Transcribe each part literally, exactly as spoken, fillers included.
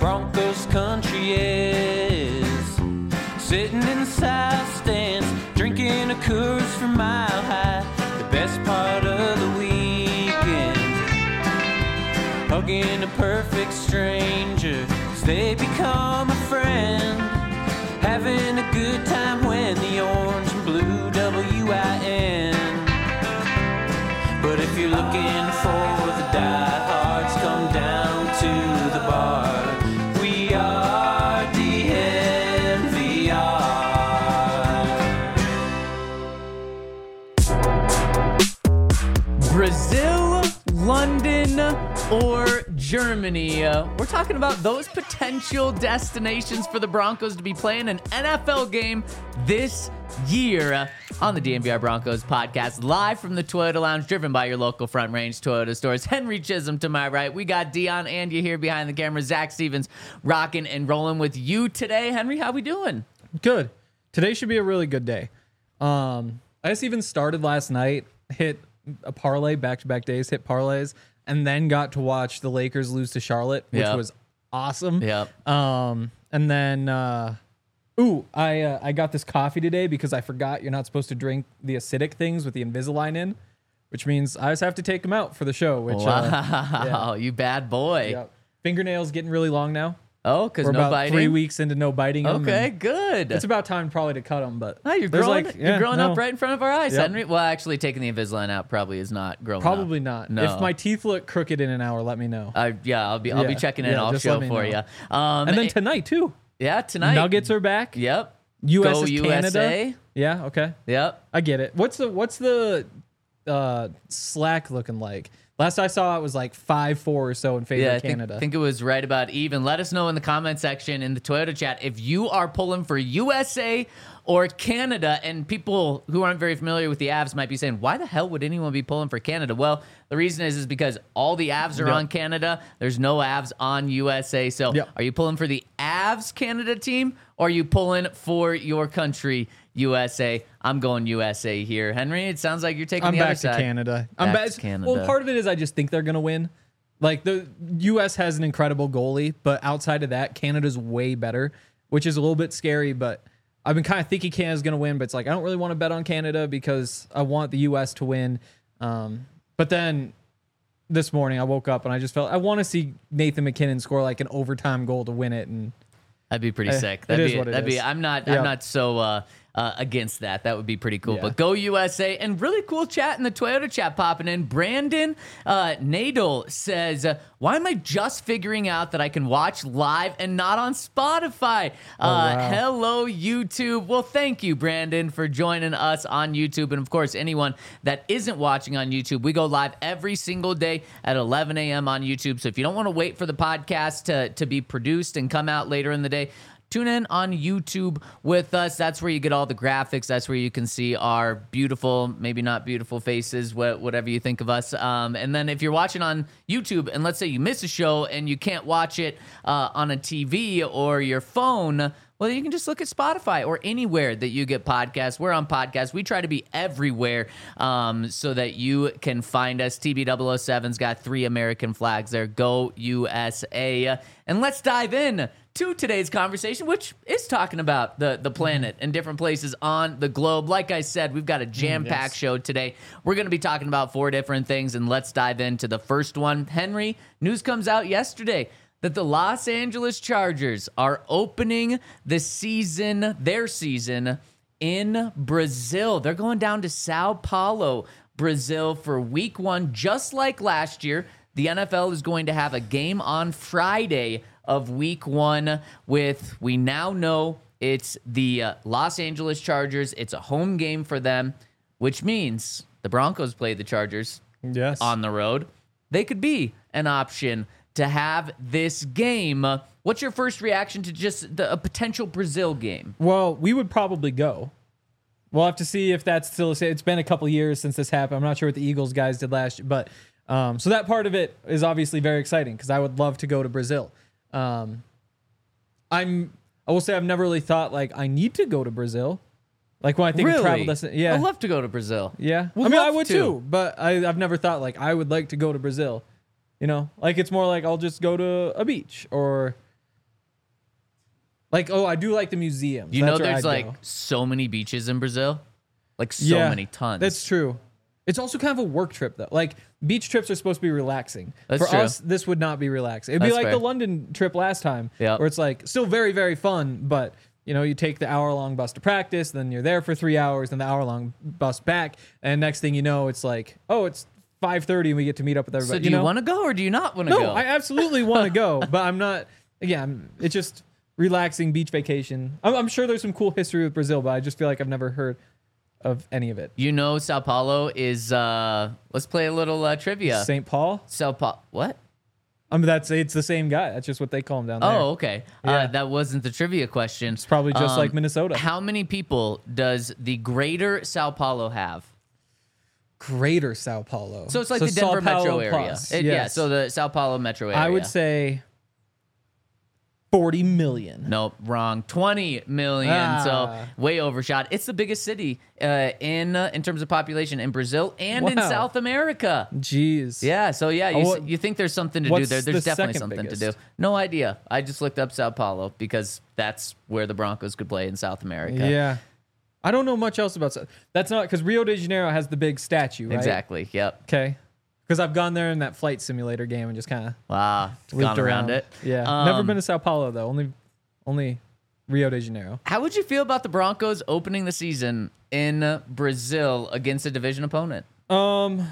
Broncos country is. Sitting in the south stands, drinking a Coors from Mile High. The best part of the weekend, hugging a perfect stranger, 'cause they become a friend. Having a good time when the orange and blue W I N. But if you're looking for the diehards, come down to the bar. We are D N V R. Brazil, London, or Germany. Uh, we're talking about those potential destinations for the Broncos to be playing an N F L game this year uh, on the D N V R Broncos podcast, live from the Toyota Lounge, driven by your local Front Range Toyota stores. Henry Chisholm to my right. We got Dion and you here behind the camera. Zach Stevens rocking and rolling with you today. Henry, how we doing? Good. Today should be a really good day. Um, I just even started last night, hit a parlay, back-to-back days, hit parlays, and then got to watch the Lakers lose to Charlotte, which Yep. was awesome. Yep. Um, and then, uh, ooh, I uh, I got this coffee today because I forgot you're not supposed to drink the acidic things with the Invisalign in, which means I just have to take them out for the show. Which Wow, uh, yeah. you bad boy. Yep. Fingernails getting really long now. Oh, because We're no about biting? three weeks into no biting them. Okay, and good. It's about time probably to cut them, but Oh, you're there's growing, like, you're yeah, growing no. up right in front of our eyes, Yep. Henry. Well, actually, taking the Invisalign out probably is not growing Probably up. not. No. If my teeth look crooked in an hour, let me know. Uh, yeah, I'll be I'll be Yeah, checking in yeah, off just show let me for know. you. Um, And then tonight too. yeah, tonight. Nuggets are back. Yep. U S Go is U Canada. S A. Yeah, okay. Yep. I get it. What's the what's the uh, slack looking like? Last I saw it was like five four or so in favor Yeah, I of think, Canada. think it was right about even. Let us know in the comment section in the Toyota chat if you are pulling for U S A or Canada. And people who aren't very familiar with the Avs might be saying, why the hell would anyone be pulling for Canada? Well, the reason is is because all the Avs are Yep. on Canada. There's no Avs on U S A. So Yep. are you pulling for the Avs Canada team or are you pulling for your country, U S A? I'm going U S A here. Henry, it sounds like you're taking I'm the back other to side. Canada. I'm Back back to Canada. Well, part of it is I just think they're gonna win. Like the U S has an incredible goalie, but outside of that, Canada's way better, which is a little bit scary. But I've been kind of thinking Canada's gonna win, but it's like I don't really want to bet on Canada because I want the U S to win. Um, but then this morning I woke up and I just felt I want to see Nathan McKinnon score like an overtime goal to win it, and That'd be pretty Eh, sick. it That'd is be, what it that'd be. is. I'm not. Yeah. I'm not so uh, uh, against that. That would be pretty cool. Yeah. But go U S A, and really cool chat in the Toyota chat popping in. Brandon uh, Nadel says, uh, "Why am I just figuring out that I can watch live and not on Spotify?" Oh, uh, wow. Hello, YouTube. Well, thank you, Brandon, for joining us on YouTube, and of course, anyone that isn't watching on YouTube, we go live every single day at eleven a.m. on YouTube. So if you don't want to wait for the podcast to to be produced and come out later in the day, tune in on YouTube with us. That's where you get all the graphics. That's where you can see our beautiful, maybe not beautiful faces, wha- whatever you think of us. Um, and then if you're watching on YouTube, and let's say you miss a show and you can't watch it uh, on a T V or your phone, well, you can just look at Spotify or anywhere that you get podcasts. We're on podcasts. We try to be everywhere um, so that you can find us. T B double oh seven's got three American flags there. Go U S A. And let's dive in to today's conversation, which is talking about the, the planet and different places on the globe. Like I said, we've got a jam-packed yes. show today. We're going to be talking about four different things, and let's dive into the first one. Henry, news comes out yesterday that the Los Angeles Chargers are opening the season, their season, in Brazil. They're going down to Sao Paulo, Brazil for week one. Just like last year, the N F L is going to have a game on Friday of week one with, we now know it's the uh, Los Angeles Chargers. It's a home game for them, which means the Broncos play the Chargers yes, on the road. They could be an option to have this game. Uh, What's your first reaction to just the, a potential Brazil game? Well, we would probably go. We'll have to see if that's still. It's been a couple years since this happened. I'm not sure what the Eagles guys did last year, but um, so that part of it is obviously very exciting because I would love to go to Brazil. Um, I'm. I will say I've never really thought like I need to go to Brazil. Like when I think of travel destination, yeah, I'd love to go to Brazil. yeah. Would I mean, I love would to. too, but I, I've never thought like I would like to go to Brazil. You know, like it's more like I'll just go to a beach or Like, oh, I do like the museums. You know, That's where there's I'd like go. so many beaches in Brazil, like so Yeah, many tons. That's true. It's also kind of a work trip though. Like beach trips are supposed to be relaxing. That's For true. us, this would not be relaxing. It'd be That's like fair. the London trip last time, Yep. where it's like still very very fun, but you know you take the hour long bus to practice, then you're there for three hours, then the hour long bus back, and next thing you know, it's like oh, it's five thirty and we get to meet up with everybody. So do you, know? want to go or do you not want to No, go? I absolutely want to go, but I'm not. Again, I'm, it's just relaxing beach vacation. I'm, I'm sure there's some cool history with Brazil, but I just feel like I've never heard of any of it. You know, Sao Paulo is. uh Let's play a little uh, trivia. Saint Paul. Sao Paulo. What? I mean, that's it's the same guy. That's just what they call him down there. Oh, okay. Yeah. Uh, that wasn't the trivia question. It's probably just Um, like Minnesota. How many people does the greater Sao Paulo have? Greater Sao Paulo. So it's like So the Denver Sao Paulo metro area. plus, It- Yeah, yes. so the Sao Paulo metro area. I would say forty million. Nope, wrong. twenty million. Ah. So way overshot. It's the biggest city uh, in uh, in terms of population in Brazil and in Wow. South America. Jeez. Yeah, so yeah, you, Uh, s- what- you think there's something to do what's there. There's the definitely second something to biggest? do. No idea. I just looked up Sao Paulo because that's where the Broncos could play in South America. Yeah. I don't know much else about Sa- that's not because Rio de Janeiro has the big statue, right? Exactly. Yep. Okay. Because I've gone there in that flight simulator game and just kind of Wow. looped Gone around it. Yeah. Um, Never been to Sao Paulo though. Only, only Rio de Janeiro. How would you feel about the Broncos opening the season in uh, Brazil against a division opponent? Um,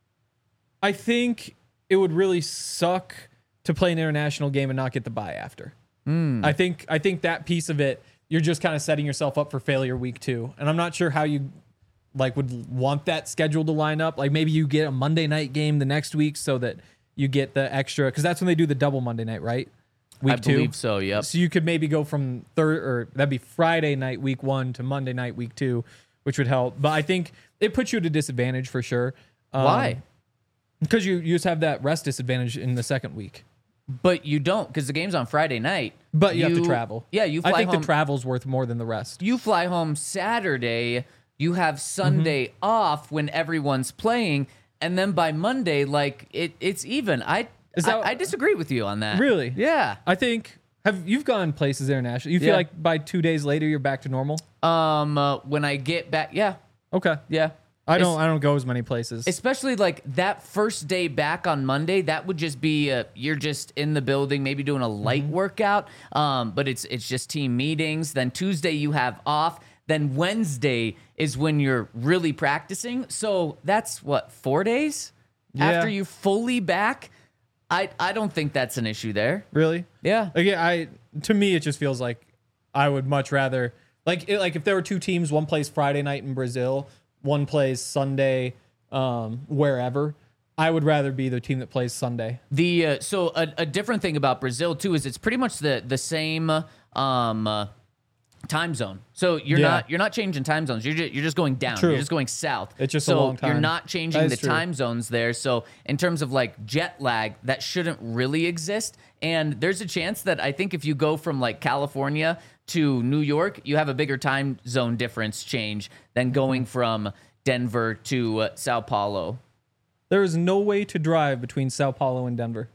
I think it would really suck to play an international game and not get the bye after. Hmm. I think I think that piece of it, you're just kind of setting yourself up for failure week two, and I'm not sure how you like would want that schedule to line up. Like maybe you get a Monday night game the next week so that you get the extra because that's when they do the double Monday night, right? Week I two. believe so, yep. So you could maybe go from third or that'd be Friday night week one to Monday night week two, which would help. But I think it puts you at a disadvantage for sure. Um, Why? Because you, you just have that rest disadvantage in the second week. But you don't because the game's on Friday night. But you, have to travel. Yeah, you fly I think home. the travel's worth more than the rest. you fly home Saturday. You have Sunday Mm-hmm. off when everyone's playing, and then by Monday, like it, it's even. I, Is I that- I disagree with you on that. Really? Yeah. I think have you've gone places internationally. You feel Yeah. like by two days later you're back to normal? Um. Uh, when I get back, yeah, Okay. yeah. I It's- don't I don't go as many places. Especially like that first day back on Monday, that would just be uh, you're just in the building, maybe doing a light Mm-hmm. workout. Um, but it's it's just team meetings. Then Tuesday you have off. Then Wednesday is when you're really practicing. So that's what four days Yeah. after you fully back. I I don't think that's an issue there. Really? Yeah. Again, I to me it just feels like I would much rather like it, like if there were two teams, one plays Friday night in Brazil, one plays Sunday um, wherever. I would rather be the team that plays Sunday. The uh, so a, a different thing about Brazil too is it's pretty much the the same um, uh, time zone. So you're Yeah. not you're not changing time zones. You're just, you're just going down. True. You're just going south. It's just a so long time. You're not changing That the is true. time zones there. So in terms of like jet lag, that shouldn't really exist. And there's a chance that I think if you go from like California to New York, you have a bigger time zone difference change than going from Denver to uh, Sao Paulo. There is no way to drive between Sao Paulo and Denver.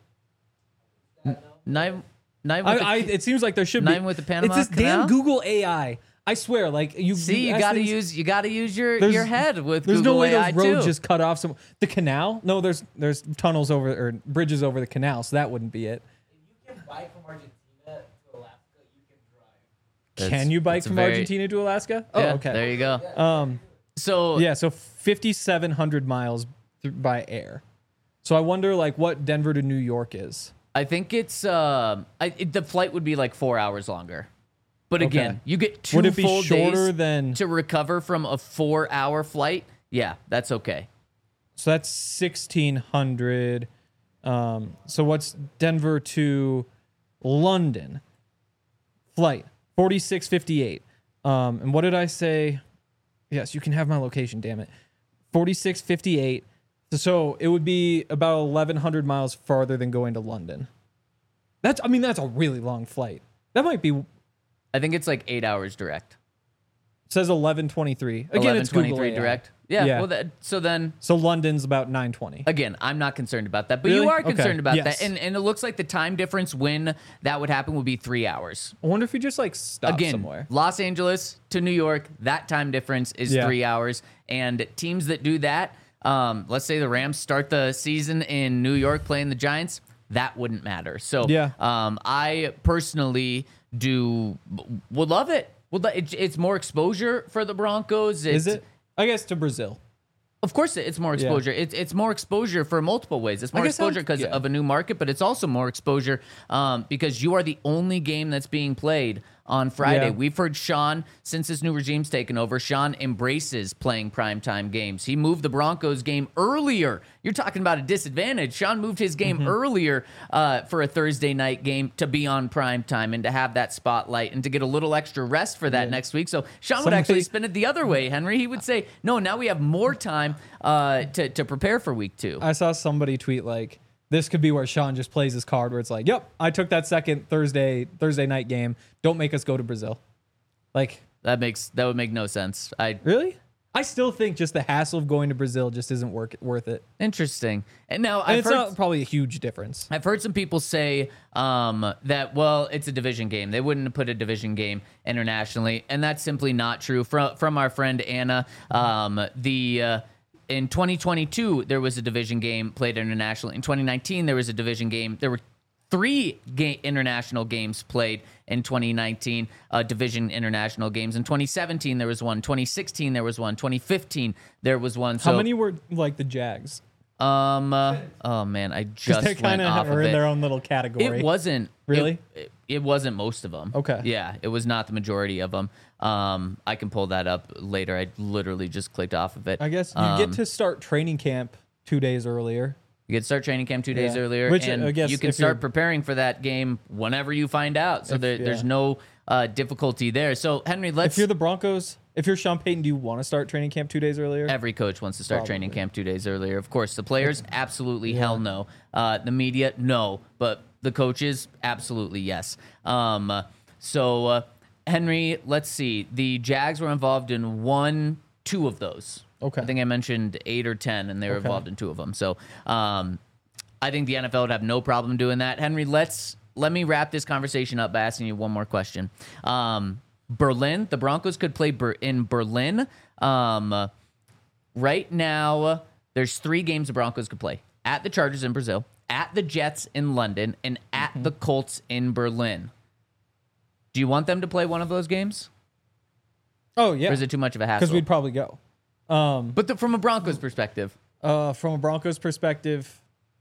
Nine, nine I, with the- I, it seems like there should Nine be. with the Panama It's this Canal? damn Google A I. I swear, like you See, you ask got to things- use you got to use your There's- your head with There's Google no way A I those roads too. just cut off some the canal. No, there's there's tunnels over or bridges over the canal, so that wouldn't be it. You can bike from Argentina to Alaska. You can drive. That's- Can you bike that's a from very- Argentina to Alaska? Oh, Yeah, okay. There you go. Um, So yeah, so fifty-seven hundred miles th- by air. So I wonder, like, what Denver to New York is. I think it's um I, it, the flight would be like four hours longer. But again, Okay. you get two Would it be full shorter days than- to recover from a four-hour flight. Yeah, that's okay. So that's sixteen hundred. Um, so what's Denver to London? Flight forty-six fifty-eight. Um, and what did I say? Yes, you can have my location. Damn it, forty-six fifty-eight. So, so it would be about eleven hundred miles farther than going to London. That's, I mean, that's a really long flight. That might be. It I think it's like eight hours direct. says eleven twenty-three. Again, eleven it's Google twenty-three A I. direct. Yeah. Yeah. Well, that, so then So London's about nine twenty. again, I'm not concerned about that, but Really? you are Okay. concerned about Yes. that, and and it looks like the time difference when that would happen would be three hours. I wonder if you just like stop Again, somewhere. Los Angeles to New York, that time difference is Yeah. three hours, and teams that do that, um, let's say the Rams start the season in New York playing the Giants, that wouldn't matter. So, Yeah. um, I personally do would love it. Would li- it, it's more exposure for the Broncos. It's, Is it? I guess to Brazil. Of course, it's more exposure. It's it's more exposure for multiple ways. It's more guess I'm- exposure because yeah. of a new market, but it's also more exposure um, because you are the only game that's being played on Friday. Yeah. We've heard Sean, since this new regime's taken over, Sean embraces playing primetime games. He moved the Broncos game earlier. You're talking about a disadvantage. Sean moved his game Mm-hmm. earlier uh, for a Thursday night game to be on primetime and to have that spotlight and to get a little extra rest for that next week. So Sean would Somebody- actually spin it the other way, Henry. He would say, no, now we have more time uh, to, to prepare for week two. I saw somebody tweet like, this could be where Sean just plays his card where it's like, yep, I took that second Thursday Thursday night game. Don't make us go to Brazil. Like, That makes that would make no sense. I really? I still think just the hassle of going to Brazil just isn't work, worth it. Interesting. And now And I've it's heard, not probably a huge difference. I've heard some people say um, that, well, it's a division game. They wouldn't put a division game internationally, and that's simply not true. From from our friend Anna, um, the uh, in twenty twenty-two there was a division game played internationally. In twenty nineteen there was a division game. There were three ga- international games played in twenty nineteen, uh, division international games. In twenty seventeen there was one. twenty sixteen there was one. twenty fifteen there was one. So How many were like the Jags? Um. Uh, oh man, I Because just they went kind off of of are in it. their own little category. It wasn't Really? It, it, it wasn't most of them. Okay. Yeah, it was not the majority of them. Um, I can pull that up later. I literally just clicked off of it. I guess you Um, get to start training camp two days earlier. You can start training camp two days Yeah. earlier, Which, and I guess you can if you're- start preparing for that game whenever you find out. So If- there, there's yeah. no uh, difficulty there. So Henry, let's. If you're the Broncos, if you're Sean Payton, do you want to start training camp two days earlier? Every coach wants to start training Probably. camp two days earlier. Of course, the players, absolutely hell no. Uh, the media, no. But the coaches, absolutely yes. Um, uh, so, uh, Henry, let's see. The Jags were involved in one, two of those. Okay. I think I mentioned eight or ten, and they were Okay. involved in two of them. So, um, I think the N F L would have no problem doing that. Henry, let's let me wrap this conversation up by asking you one more question. Um, Berlin, the Broncos could play Ber- in Berlin. Um, right now, there's three games the Broncos could play: at the Chargers in Brazil, at the Jets in London, and at Mm-hmm. the Colts in Berlin. Do you want them to play one of those games, Oh yeah, or is it too much of a because hassle? we'd probably go. Um, but the, from a Broncos perspective, uh, from a Broncos perspective,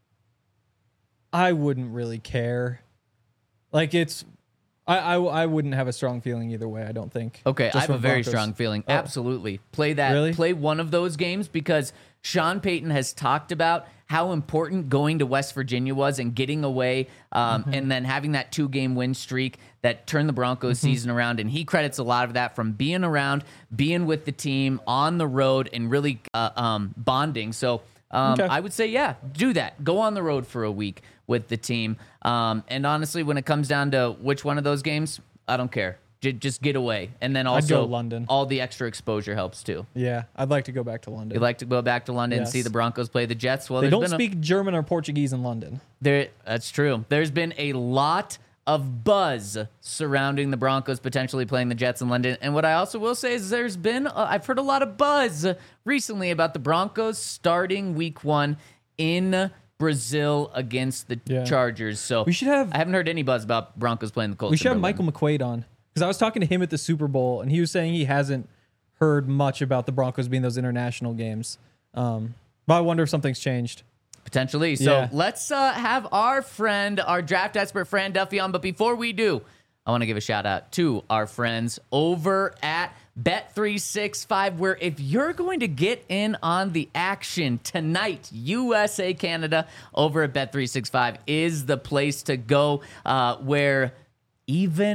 I wouldn't really care. Like it's, I, I, I wouldn't have a strong feeling either way. I don't think. okay, Just I have from a very Broncos. strong feeling. Oh. Absolutely, play that. Really? Play one of those games because Sean Payton has talked about how important going to West Virginia was and getting away, um, Mm-hmm. and then having that two-game win streak that turned the Broncos Mm-hmm. season around. And he credits a lot of that from being around, being with the team on the road, and really uh, um, bonding. So. Um, Okay. I would say, yeah, do that. Go on the road for a week with the team. Um, and honestly, when it comes down to which one of those games, I don't care. J- just get away. And then I'd also, go London. all the extra exposure helps too. Yeah, I'd like to go back to London. You'd like to go back to London and Yes. see the Broncos play the Jets? Well, they there's don't been a- speak German or Portuguese in London. there, that's true. There's been a lot of buzz surrounding the Broncos potentially playing the Jets in London. And what I also will say is there's been, uh, I've heard a lot of buzz recently about the Broncos starting week one in Brazil against the Yeah. Chargers. So We should have- I haven't heard any buzz about Broncos playing the Colts. We should in have Berlin. Michael McQuaid on because I was talking to him at the Super Bowl and he was saying he hasn't heard much about the Broncos being those international games. Um, but I wonder if something's changed. Potentially. So Yeah. let's uh, have our friend, our draft expert, Fran Duffy on. But before we do, I want to give a shout out to our friends over at Bet three sixty-five, where if you're going to get in on the action tonight, U S A Canada over at Bet three sixty-five is the place to go, uh, where even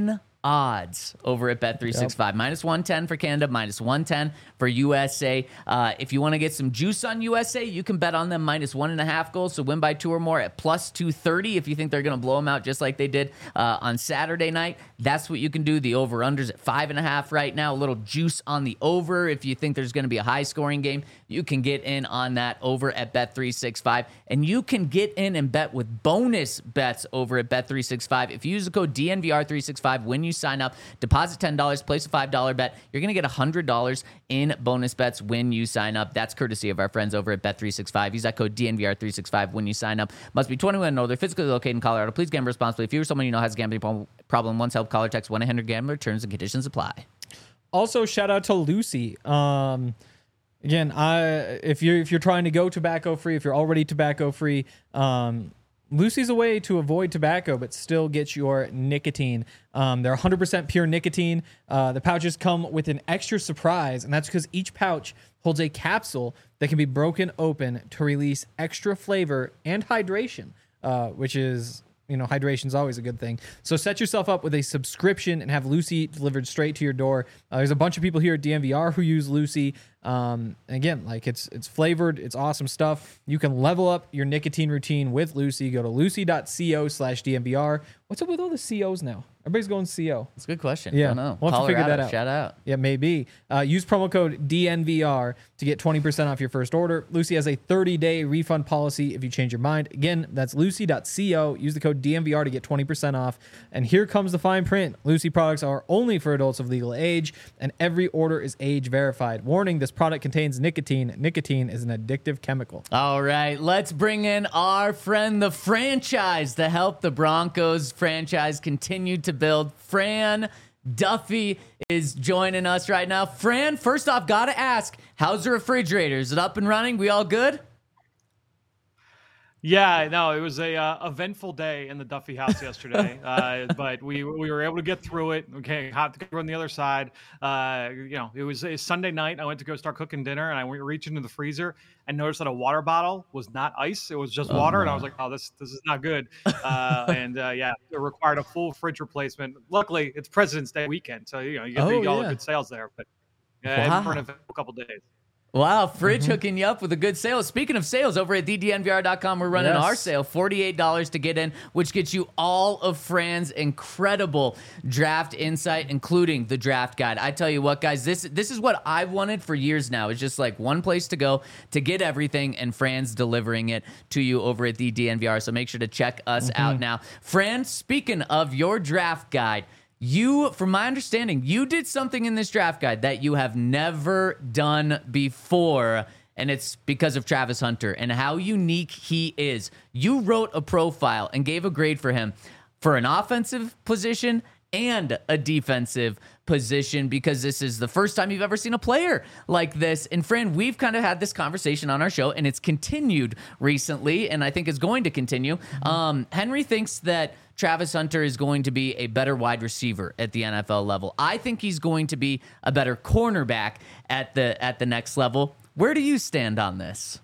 odds over at Bet three sixty-five. Yep. Minus one ten for Canada, minus one ten for U S A. Uh, if you want to get some juice on U S A, you can bet on them minus one and a half goals. So win by two or more at plus two thirty if you think they're going to blow them out just like they did uh, on Saturday night. That's what you can do. The over-unders at five and a half right now. A little juice on the over. If you think there's going to be a high-scoring game, you can get in on that over at Bet three sixty-five. And you can get in and bet with bonus bets over at Bet three sixty-five. If you use the code D N V R three sixty-five when you sign up, deposit ten dollars, place a five dollar bet, you're going to get one hundred dollars in bonus bets when you sign up. That's courtesy of our friends over at Bet three sixty-five. Use that code D N V R three sixty-five when you sign up. Must be twenty-one and older, physically located in Colorado. Please gamble responsibly. If you're someone you know has a gambling problem, once help, caller text one eight hundred gambler. Terms and conditions apply. Also, shout out to Lucy. Um, again, I if you're if you're trying to go tobacco free, if you're already tobacco free, um, Lucy's a way to avoid tobacco but still get your nicotine. Um, they're one hundred percent pure nicotine. Uh, the pouches come with an extra surprise, and that's because each pouch holds a capsule that can be broken open to release extra flavor and hydration, uh, which is, you know, hydration is always a good thing. So set yourself up with a subscription and have Lucy delivered straight to your door. Uh, there's a bunch of people here at D N V R who use Lucy. Um, again, like it's it's flavored, it's awesome stuff. You can level up your nicotine routine with Lucy. Go to lucy.co slash DNVR. What's up with all the C Os now? Everybody's going C O. That's a good question. Yeah, I don't know. We'll have to figure that out. Shout out. Yeah, maybe. Uh, use promo code D N V R to get twenty percent off your first order. Lucy has a thirty-day refund policy if you change your mind. Again, that's lucy.co. Use the code D N V R to get twenty percent off. And here comes the fine print. Lucy products are only for adults of legal age, and every order is age verified. Warning, this product contains nicotine. Nicotine is an addictive chemical. All right, let's bring in our friend, the franchise, to help the Broncos franchise continue to build. Fran Duffy is joining us right now. Fran, first off, gotta ask, how's the refrigerator? Is it up and running? We all good? Yeah, no, it was a uh, eventful day in the Duffy house yesterday, uh, but we we were able to get through it. Okay, hot to go on the other side. Uh, you know, it was a Sunday night. I went to go start cooking dinner, and I went reach into the freezer and noticed that a water bottle was not ice; it was just Oh, water. no. And I was like, "Oh, this this is not good." Uh, and uh, yeah, it required a full fridge replacement. Luckily, it's President's Day weekend, so you know you get, Oh, you get all yeah. the good sales there. But yeah, Wow. for an eventful couple days. Wow, Fridge Mm-hmm. hooking you up with a good sale. Speaking of sales, over at D D N V R dot com, we're running Yes. our sale, forty-eight dollars to get in, which gets you all of Fran's incredible draft insight, including the draft guide. I tell you what, guys, this this is what I've wanted for years now. It's just like one place to go to get everything, and Fran's delivering it to you over at the D N V R. So make sure to check us Mm-hmm. out now. Fran, speaking of your draft guide, you, from my understanding, you did something in this draft guide that you have never done before, and it's because of Travis Hunter and how unique he is. You wrote a profile and gave a grade for him for an offensive position and a defensive position, because this is the first time you've ever seen a player like this. And Fran, we've kind of had this conversation on our show, and it's continued recently, and I think is going to continue. Um, Henry thinks that Travis Hunter is going to be a better wide receiver at the N F L level. I think he's going to be a better cornerback at the at the next level. Where do you stand on this?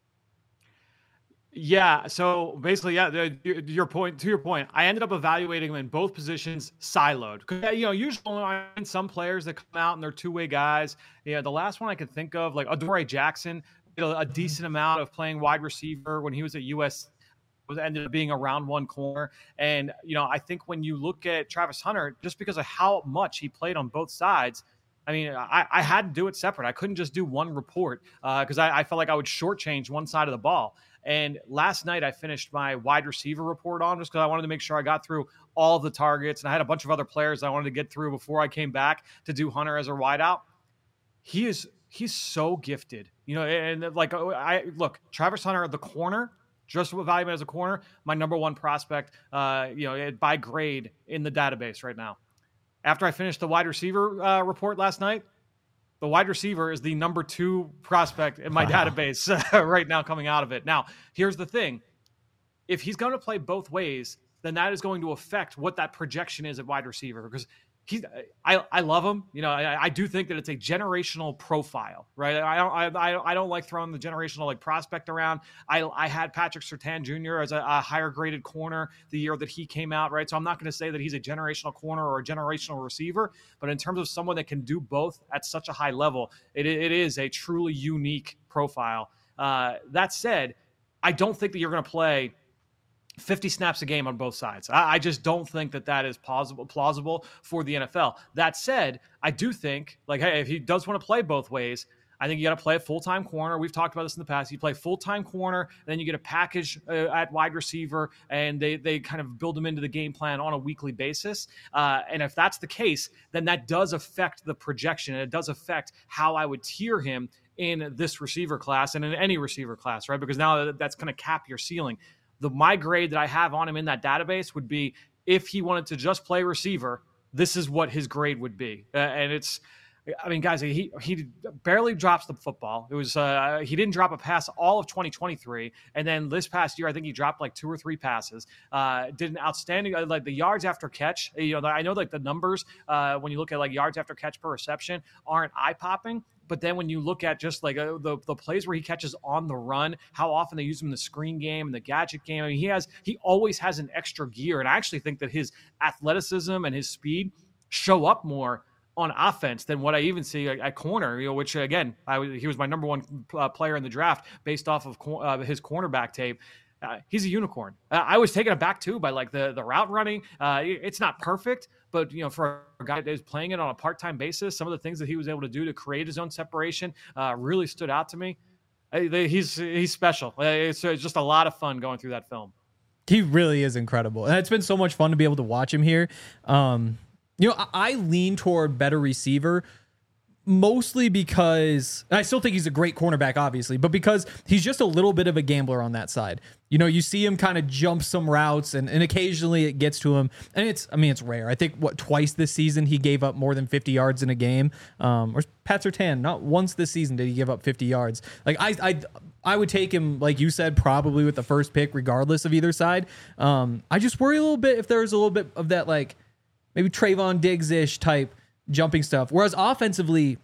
Yeah. So basically, yeah, the, your your point to your point, I ended up evaluating them in both positions siloed. 'Cause, you know, usually I find some players that come out and they're two way guys. Yeah. The last one I could think of, like Adoree Jackson, did a, a decent amount of playing wide receiver when he was at U S. Was ended up being a round one corner. And, you know, I think when you look at Travis Hunter, just because of how much he played on both sides, I mean, I, I had to do it separate. I couldn't just do one report because uh, I, I felt like I would shortchange one side of the ball. And last night I finished my wide receiver report on just because I wanted to make sure I got through all the targets. And I had a bunch of other players I wanted to get through before I came back to do Hunter as a wideout. He is, he's so gifted, you know, and like, I look, Travis Hunter, the corner, just evaluated as a corner, my number one prospect, uh, you know, by grade in the database right now. After I finished the wide receiver uh, report last night, the wide receiver is the number two prospect in my wow. database uh, right now coming out of it. Now, here's the thing. If he's going to play both ways, then that is going to affect what that projection is at wide receiver, because He's, I, I love him. You know, I, I do think that it's a generational profile, right? I don't, I, I don't like throwing the generational like prospect around. I, I had Patrick Surtain Junior as a, a higher graded corner the year that he came out, right? So I'm not going to say that he's a generational corner or a generational receiver, but in terms of someone that can do both at such a high level, it, it is a truly unique profile. Uh, that said, I don't think that you're going to play fifty snaps a game on both sides. I, I just don't think that that is plausible, plausible for the N F L. That said, I do think, like, hey, if he does want to play both ways, I think you got to play a full-time corner. We've talked about this in the past. You play full-time corner, and then you get a package uh, at wide receiver, and they they kind of build them into the game plan on a weekly basis. Uh, and if that's the case, then that does affect the projection, and it does affect how I would tier him in this receiver class and in any receiver class, right? Because now that's going to cap your ceiling. The my grade that I have on him in that database would be if he wanted to just play receiver, this is what his grade would be. Uh, and it's, I mean, guys, he he barely drops the football. It was uh, he didn't drop a pass all of twenty twenty-three, and then this past year, I think he dropped like two or three passes. Uh, did an outstanding like the yards after catch. You know, I know like the numbers uh, when you look at like yards after catch per reception aren't eye popping. But then when you look at just like uh, the the plays where he catches on the run, how often they use him in the screen game and the gadget game, I mean, he has he always has an extra gear. And I actually think that his athleticism and his speed show up more on offense than what I even see at, at corner. You know, which again, I he was my number one uh, player in the draft based off of co- uh, his cornerback tape. Uh, he's a unicorn. Uh, I was taken aback too by like the the route running. Uh, it's not perfect, but you know, for a guy that is playing it on a part-time basis, some of the things that he was able to do to create his own separation uh, really stood out to me. Uh, they, he's he's special. Uh, it's, it's just a lot of fun going through that film. He really is incredible, and it's been so much fun to be able to watch him here. Um, you know, I, I lean toward better receiver. Mostly because I still think he's a great cornerback, obviously, but because he's just a little bit of a gambler on that side. You know, you see him kind of jump some routes and, and occasionally it gets to him. And it's, I mean, it's rare. I think what twice this season he gave up more than fifty yards in a game. Um, or Pat Surtain, not once this season did he give up fifty yards. Like I, I, I would take him, like you said, probably with the first pick, regardless of either side. Um, I just worry a little bit if there's a little bit of that, like maybe Trayvon Diggs-ish type jumping stuff. Whereas offensively,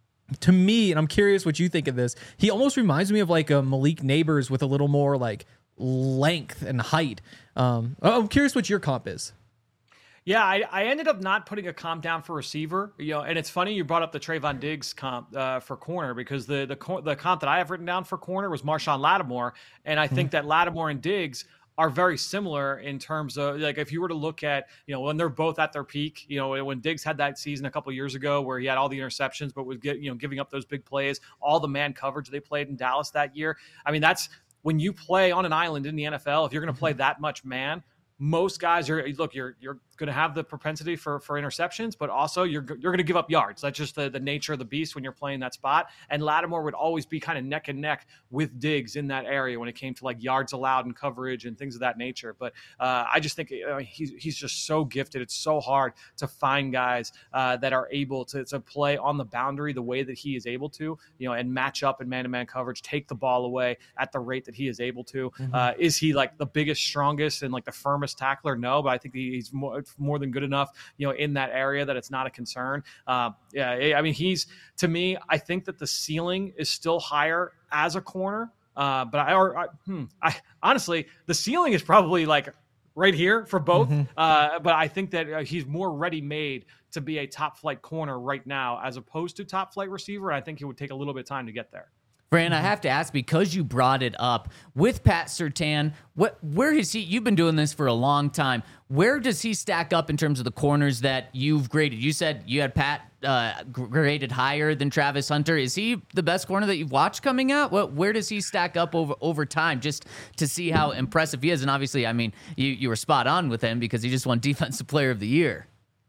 to me, and I'm curious what you think of this, he almost reminds me of like a Malik Neighbors with a little more like length and height. Um, I'm curious what your comp is. Yeah, I, I ended up not putting a comp down for receiver, you know, and it's funny you brought up the Trayvon Diggs comp uh, for corner because the the the comp that I have written down for corner was Marshawn Lattimore, and I think mm-hmm. that Lattimore and Diggs are very similar in terms of like if you were to look at, you know, when they're both at their peak, you know, when Diggs had that season a couple of years ago where he had all the interceptions but was get, you know, giving up those big plays, all the man coverage they played in Dallas that year. I mean, that's when you play on an island in the N F L, if you're going to play that much man, most guys are look, you're you're going to have the propensity for for interceptions, but also you're you're going to give up yards. That's just the, the nature of the beast when you're playing that spot. And Lattimore would always be kind of neck and neck with Diggs in that area when it came to like yards allowed and coverage and things of that nature. But uh, I just think uh, he's he's just so gifted. It's so hard to find guys uh, that are able to to play on the boundary the way that he is able to, you know, and match up in man-to-man coverage, take the ball away at the rate that he is able to. Mm-hmm. Uh, is he like the biggest, strongest, and like the firmest tackler? No, but I think he's more more than good enough, you know, in that area that it's not a concern. Uh, yeah, I mean, he's to me, I think that the ceiling is still higher as a corner. Uh, but I, or, I, hmm, I honestly, the ceiling is probably like right here for both. Mm-hmm. Uh, but I think that uh, he's more ready-made to be a top-flight corner right now as opposed to top-flight receiver. I think it would take a little bit of time to get there. Fran, I have to ask, because you brought it up, with Pat Surtain, what, where is he? You've been doing this for a long time. Where does he stack up in terms of the corners that you've graded? You said you had Pat uh, graded higher than Travis Hunter. Is he the best corner that you've watched coming out? What, where does he stack up over, over time, just to see how impressive he is? And obviously, I mean, you, you were spot on with him because he just won Defensive Player of the Year.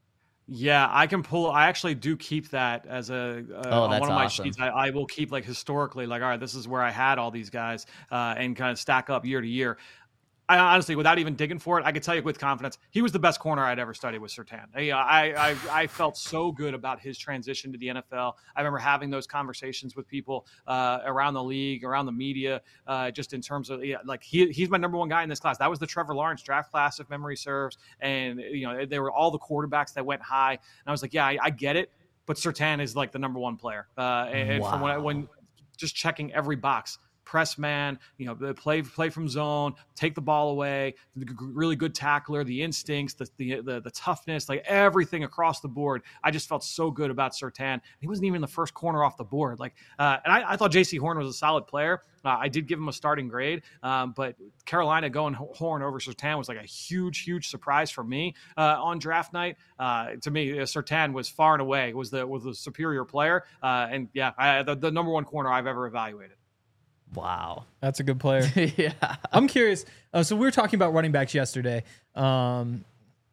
Yeah, I can pull. I actually do keep that as a uh, oh, on that's one of my awesome. sheets. I, I will keep like historically, like, all right, this is where I had all these guys uh, and kind of stack up year to year. I honestly, without even digging for it, I could tell you with confidence, he was the best corner I'd ever studied with Surtain. I, I, I, I felt so good about his transition to the N F L. I remember having those conversations with people uh, around the league, around the media, uh, just in terms of yeah, like he, he's my number one guy in this class. That was the Trevor Lawrence draft class, if memory serves, and you know there were all the quarterbacks that went high, and I was like, yeah, I, I get it, but Surtain is like the number one player, uh, and wow. from when, I, when just checking every box. Press man, you know, play play from zone, take the ball away, really good tackler, the instincts, the the the, the toughness, like everything across the board. I just felt so good about Surtain. He wasn't even the first corner off the board. Like, uh, and I, I thought J C Horn was a solid player. Uh, I did give him a starting grade, um, but Carolina going Horn over Surtain was like a huge, huge surprise for me uh, on draft night. Uh, to me, uh, Surtain was far and away was the was the superior player, uh, and yeah, I, the, the number one corner I've ever evaluated. Wow. That's a good player. yeah. I'm curious. Uh, so we were talking about running backs yesterday. Um,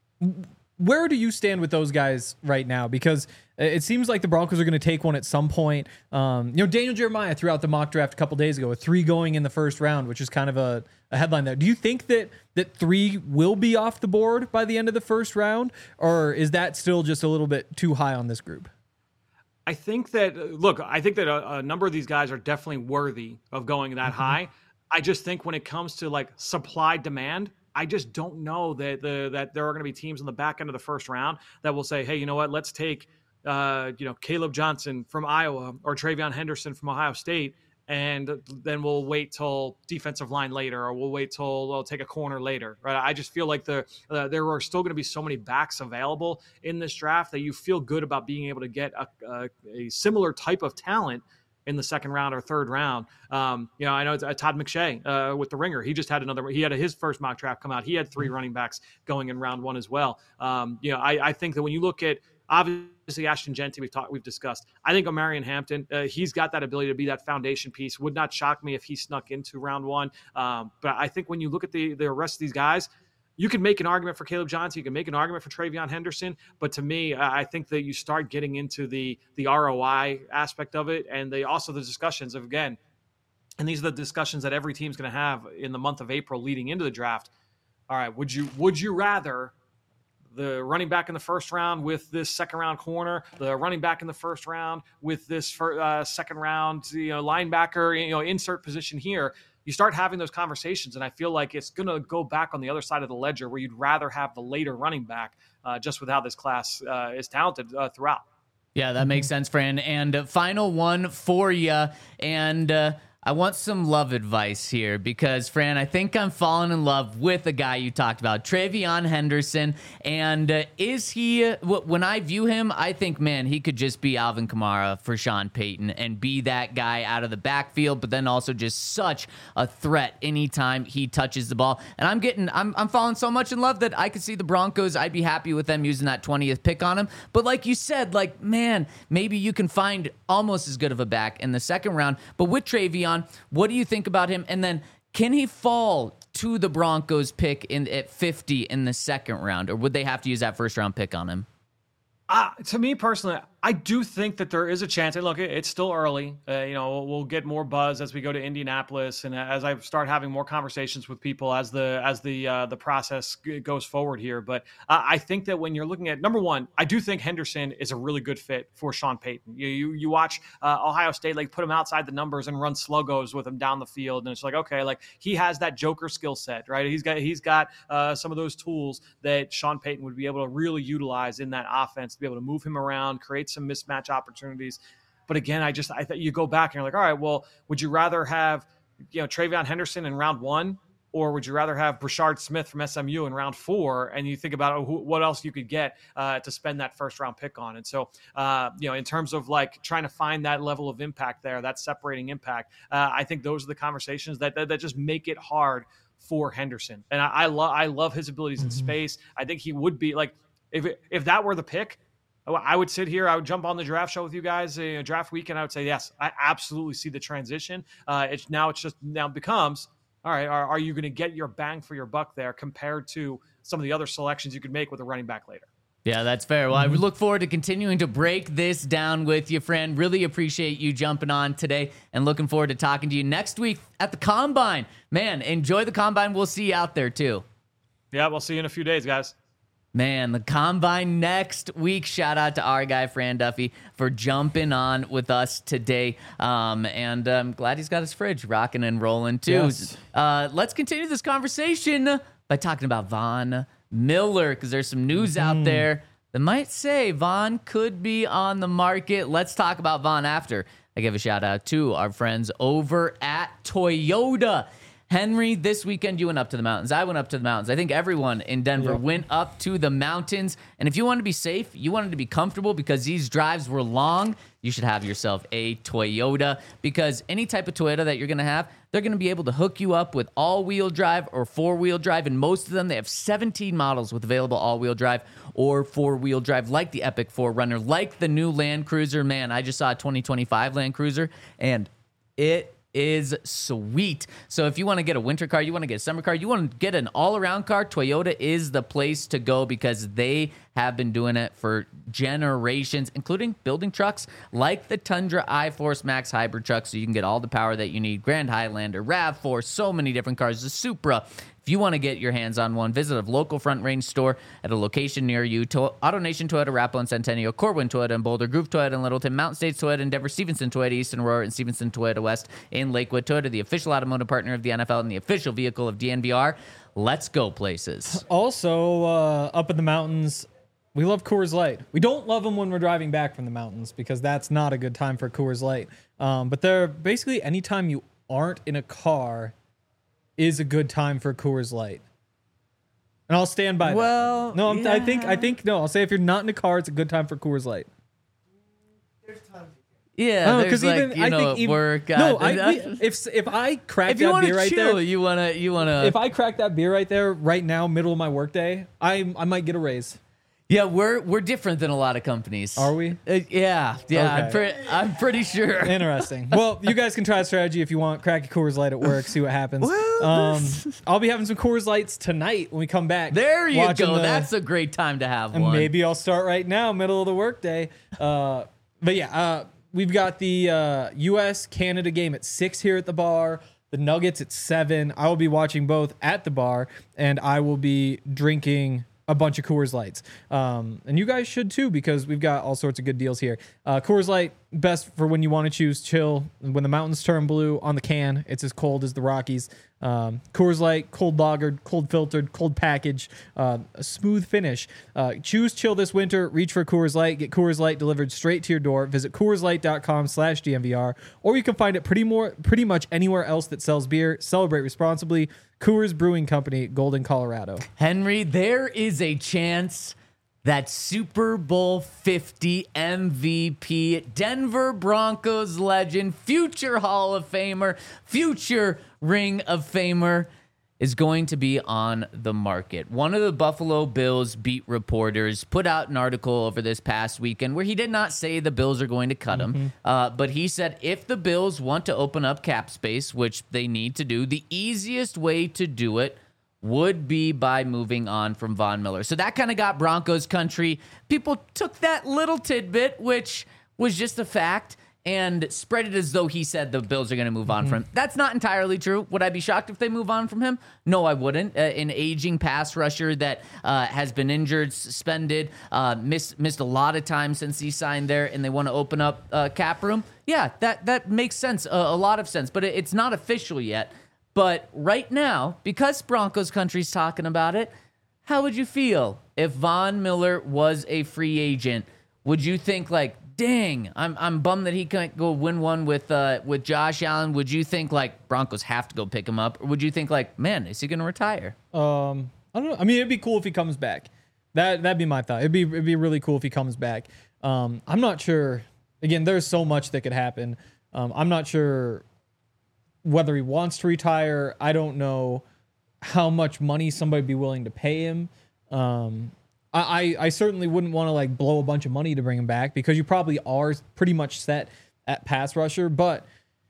where do you stand with those guys right now? Because it seems like the Broncos are going to take one at some point. Um, you know, Daniel Jeremiah threw out the mock draft a couple days ago with three going in the first round, which is kind of a, a headline there. Do you think that that three will be off the board by the end of the first round, or is that still just a little bit too high on this group? I think that, look, I think that a, a number of these guys are definitely worthy of going that mm-hmm. high. I just think when it comes to like supply demand, I just don't know that the that there are going to be teams on the back end of the first round that will say, hey, you know what, let's take, uh, you know, Caleb Johnson from Iowa or TreVeyon Henderson from Ohio State, and then we'll wait till defensive line later, or we'll wait till we'll take a corner later, right? I just feel like the uh, there are still going to be so many backs available in this draft that you feel good about being able to get a, a, a similar type of talent in the second round or third round. Um, you know, I know it's, uh, Todd McShay uh, with the Ringer. He just had another. He had a, his first mock draft come out. He had three running backs going in round one as well. Um, you know, I, I think that when you look at obviously Ashton Jeanty, we've talked, we've discussed. I think Omarion Hampton, uh, he's got that ability to be that foundation piece. Would not shock me if he snuck into round one. Um, but I think when you look at the the rest of these guys, you can make an argument for Caleb Johnson. You can make an argument for TreVeyon Henderson. But to me, I think that you start getting into the the R O I aspect of it, and they also the discussions of, again, and these are the discussions that every team's going to have in the month of April leading into the draft. All right, would you would you rather the running back in the first round with this second round corner, the running back in the first round with this first, uh, second round, you know, linebacker, you know, insert position here? You start having those conversations, and I feel like it's going to go back on the other side of the ledger where you'd rather have the later running back uh, just with how this class uh, is talented uh, throughout. Yeah, that makes sense, Fran. And uh, final one for you, and uh, I want some love advice here because, Fran, I think I'm falling in love with the guy you talked about, TreVeyon Henderson. And uh, is he, uh, when I view him, I think, man, he could just be Alvin Kamara for Sean Payton and be that guy out of the backfield, but then also just such a threat anytime he touches the ball. And I'm getting, I'm, I'm falling so much in love that I could see the Broncos. I'd be happy with them using that twentieth pick on him. But like you said, like, man, maybe you can find almost as good of a back in the second round. But with TreVeyon, what do you think about him? And then can he fall to the Broncos pick in at fifty in the second round, or would they have to use that first round pick on him? Uh, to me personally, I do think that there is a chance. And look, it's still early. Uh, you know, we'll get more buzz as we go to Indianapolis, and as I start having more conversations with people as the as the uh, the process goes forward here. But uh, I think that when you're looking at number one, I do think Henderson is a really good fit for Sean Payton. You you, you watch uh, Ohio State, like, put him outside the numbers and run sluggos with him down the field, and it's like, okay, like, he has that Joker skill set, right? He's got he's got uh, some of those tools that Sean Payton would be able to really utilize in that offense to be able to move him around, create some mismatch opportunities. But again, I just, I thought you go back and you're like, all right, well, would you rather have, you know, TreVeyon Henderson in round one, or would you rather have Brashard Smith from S M U in round four? And you think about oh, who, what else you could get uh, to spend that first round pick on. And so, uh, you know, in terms of like trying to find that level of impact there, that separating impact, uh, I think those are the conversations that, that, that just make it hard for Henderson. And I, I love, I love his abilities mm-hmm. in space. I think he would be like, if, it, if that were the pick, I would sit here, I would jump on the draft show with you guys, you know, draft weekend. I would say, yes, I absolutely see the transition. Uh, it's now it's just now becomes, all right, are, are you going to get your bang for your buck there compared to some of the other selections you could make with a running back later? Yeah, that's fair. Well, Mm-hmm. I look forward to continuing to break this down with you, friend. Really appreciate you jumping on today and looking forward to talking to you next week at the Combine. Man, enjoy the Combine. We'll see you out there too. Yeah, we'll see you in a few days, guys. Man, the Combine next week. Shout out to our guy, Fran Duffy, for jumping on with us today. Um, and I'm glad he's got his fridge rocking and rolling, too. Yes. Uh, let's continue this conversation by talking about Von Miller, because there's some news out there that might say Von could be on the market. Let's talk about Von after I give a shout out to our friends over at Toyota. Henry, this weekend you went up to the mountains. I went up to the mountains. I think everyone in Denver Yep. went up to the mountains. And if you wanted to be safe, you wanted to be comfortable because these drives were long, you should have yourself a Toyota, because any type of Toyota that you're going to have, they're going to be able to hook you up with all-wheel drive or four-wheel drive. And most of them, they have seventeen models with available all-wheel drive or four-wheel drive, like the Epic four runner, like the new Land Cruiser. Man, I just saw a twenty twenty-five Land Cruiser, and it is sweet. So if you want to get a winter car, you want to get a summer car, you want to get an all-around car, Toyota is the place to go, because they have been doing it for generations, including building trucks like the Tundra iForce Max hybrid truck, so you can get all the power that you need. Grand Highlander, RAV four, so many different cars. The Supra. If you want to get your hands on one, visit a local Front Range store at a location near you. To- AutoNation Toyota, Arapahoe and Centennial, Corwin Toyota and Boulder, Groove Toyota and Littleton, Mountain States Toyota in Denver, Stevenson Toyota East and Aurora, and Stevenson Toyota West in Lakewood. Toyota, the official automotive partner of the N F L and the official vehicle of D N V R. Let's go places. Also, uh, up in the mountains, we love Coors Light. We don't love them when we're driving back from the mountains, because that's not a good time for Coors Light. Um, but they're basically anytime you aren't in a car is a good time for Coors Light. And I'll stand by Well, that. No, I'm, I think yeah. I think no. I'll say if you're not in a car, it's a good time for Coors Light. There's times Yeah, Oh, there's like, even you I know, think at even, work. no, uh, I, we- if if I crack if you that want beer to right chill, there, you wanna, you wanna. if I crack that beer right there right now, middle of my workday, I I might get a raise. Yeah, we're we're different than a lot of companies. Are we? Uh, yeah, yeah. I'm, Okay. pre- I'm pretty sure. Interesting. Well, you guys can try a strategy if you want. Crack a Coors Light at work, see what happens. Well, um, I'll be having some Coors Lights tonight when we come back. There you watching go. the- That's a great time to have and one. maybe I'll start right now, middle of the workday. Uh, but yeah, uh, we've got the uh, U S Canada game at six here at the bar. The Nuggets at seven. I will be watching both at the bar, and I will be drinking a bunch of Coors Lights. Um, and you guys should too, because we've got all sorts of good deals here. Uh, Coors Light, best for when you want to choose chill. When the mountains turn blue on the can, it's as cold as the Rockies. Um, Coors Light, cold lagered, cold filtered, cold package, uh, a smooth finish. Uh, choose chill this winter. Reach for Coors Light. Get Coors Light delivered straight to your door. Visit CoorsLight.com slash DNVR, or you can find it pretty more, pretty much anywhere else that sells beer. Celebrate responsibly. Coors Brewing Company, Golden, Colorado. Henry, there is a chance that Super Bowl fifty M V P, Denver Broncos legend, future Hall of Famer, future Ring of Famer, is going to be on the market. One of the Buffalo Bills beat reporters put out an article over this past weekend where he did not say the Bills are going to cut him, uh, but he said if the Bills want to open up cap space, which they need to do, the easiest way to do it would be by moving on from Von Miller. So that kind of got Broncos country. People took that little tidbit, which was just a fact, and spread it as though he said the Bills are going to move on from him. That's not entirely true. Would I be shocked if they move on from him? No, I wouldn't. Uh, an aging pass rusher that uh, has been injured, suspended, uh, missed missed a lot of time since he signed there, and they want to open up uh, cap room. Yeah, that that makes sense, uh, a lot of sense. But it, it's not official yet. But right now, because Broncos country's talking about it, how would you feel if Von Miller was a free agent? Would you think like, dang, I'm I'm bummed that he can't go win one with uh, with Josh Allen? Would you think like Broncos have to go pick him up, or would you think like, man, is he going to retire? Um, I don't know. I mean, it'd be cool if he comes back. That that'd be my thought. It'd be it'd be really cool if he comes back. Um, I'm not sure. Again, there's so much that could happen. Um, I'm not sure whether he wants to retire. I don't know how much money somebody would be willing to pay him. Um, I, I certainly wouldn't want to like blow a bunch of money to bring him back, because you probably are pretty much set at pass rusher. But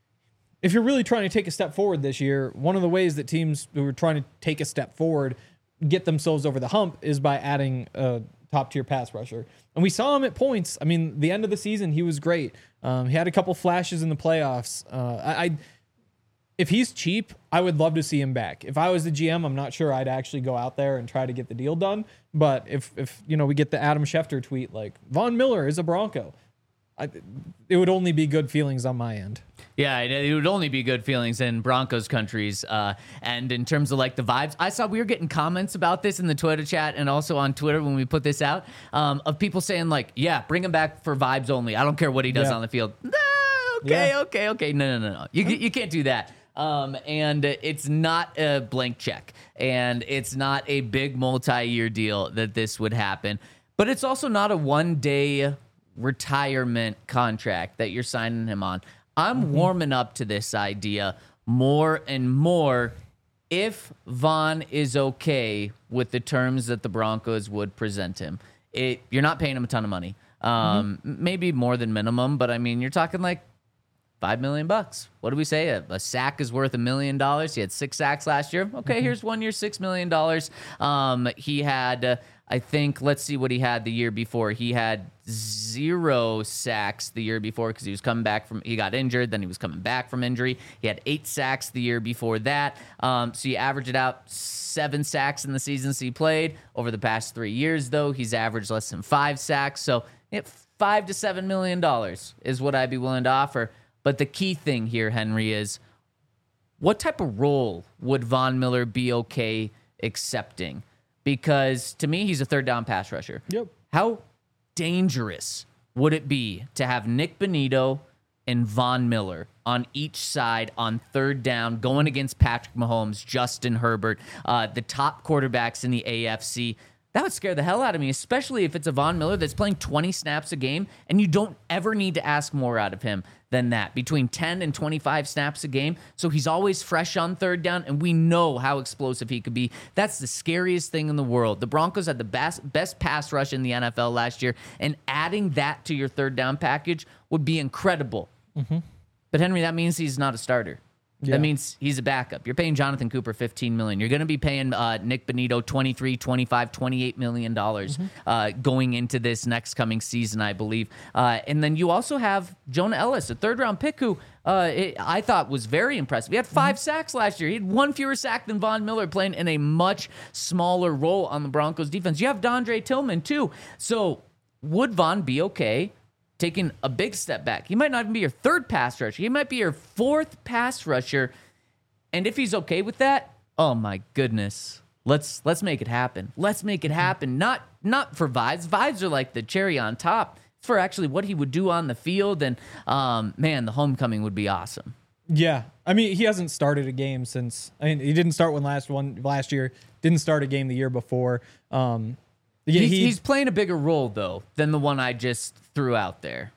if you're really trying to take a step forward this year, one of the ways that teams who are trying to take a step forward get themselves over the hump is by adding a top tier pass rusher. And we saw him at points. I mean, the end of the season, he was great. Um, he had a couple flashes in the playoffs. Uh, I, I, if he's cheap, I would love to see him back. If I was the G M, I'm not sure I'd actually go out there and try to get the deal done. But if, if you know, we get the Adam Schefter tweet like Von Miller is a Bronco, I, it would only be good feelings on my end. Yeah, it, it would only be good feelings in Broncos countries. Uh, and in terms of like the vibes, I saw we were getting comments about this in the Twitter chat and also on Twitter when we put this out um, of people saying like, yeah, bring him back for vibes only. I don't care what he does Yeah. on the field. No, okay, Yeah. okay, okay. No, no, no, no. You, you can't do that. Um, and it's not a blank check. And it's not a big multi-year deal that this would happen. But it's also not a one-day retirement contract that you're signing him on. I'm mm-hmm. warming up to this idea more and more if Von is okay with the terms that the Broncos would present him. It You're not paying him a ton of money. Um, mm-hmm. Maybe more than minimum, but I mean, you're talking like five million bucks. What do we say? A, a sack is worth a million dollars. He had six sacks last year. Okay, mm-hmm. here's one year, six million dollars. Um, he had, uh, I think, let's see what he had the year before. He had zero sacks the year before because he was coming back from, he got injured, then he was coming back from injury. He had eight sacks the year before that. Um, so you average it out, seven sacks in the seasons he played. Over the past three years, though, he's averaged less than five sacks. So yeah, five to seven million dollars is what I'd be willing to offer. But the key thing here, Henry, is what type of role would Von Miller be okay accepting? Because to me, he's a third down pass rusher. Yep. How dangerous would it be to have Nick Bonito and Von Miller on each side on third down going against Patrick Mahomes, Justin Herbert, uh, the top quarterbacks in the A F C? That would scare the hell out of me, especially if it's a Von Miller that's playing twenty snaps a game and you don't ever need to ask more out of him than that, between ten and twenty-five snaps a game. So he's always fresh on third down, and we know how explosive he could be. That's the scariest thing in the world. The Broncos had the best, best pass rush in the N F L last year, and adding that to your third down package would be incredible. Mm-hmm. But Henry, that means he's not a starter. Yeah. That means he's a backup. You're paying Jonathan Cooper fifteen million dollars. You're going to be paying uh, Nick Bonito twenty-three, twenty-five, twenty-eight million dollars mm-hmm. uh, going into this next coming season, I believe. Uh, and then you also have Jonah Ellis, a third-round pick who uh, it, I thought was very impressive. He had five mm-hmm. sacks last year. He had one fewer sack than Von Miller, playing in a much smaller role on the Broncos defense. You have Dondre Tillman, too. So would Von be okay taking a big step back? He might not even be your third pass rusher. He might be your fourth pass rusher. And if he's okay with that, oh my goodness. Let's let's make it happen. Let's make it happen. Not not for vibes. Vibes are like the cherry on top. It's for actually what he would do on the field. And um, man, the homecoming would be awesome. Yeah. I mean, he hasn't started a game since, I mean, he didn't start one last one last year. Didn't start a game the year before. Um Yeah, he's, he, he's playing a bigger role, though, than the one I just threw out there.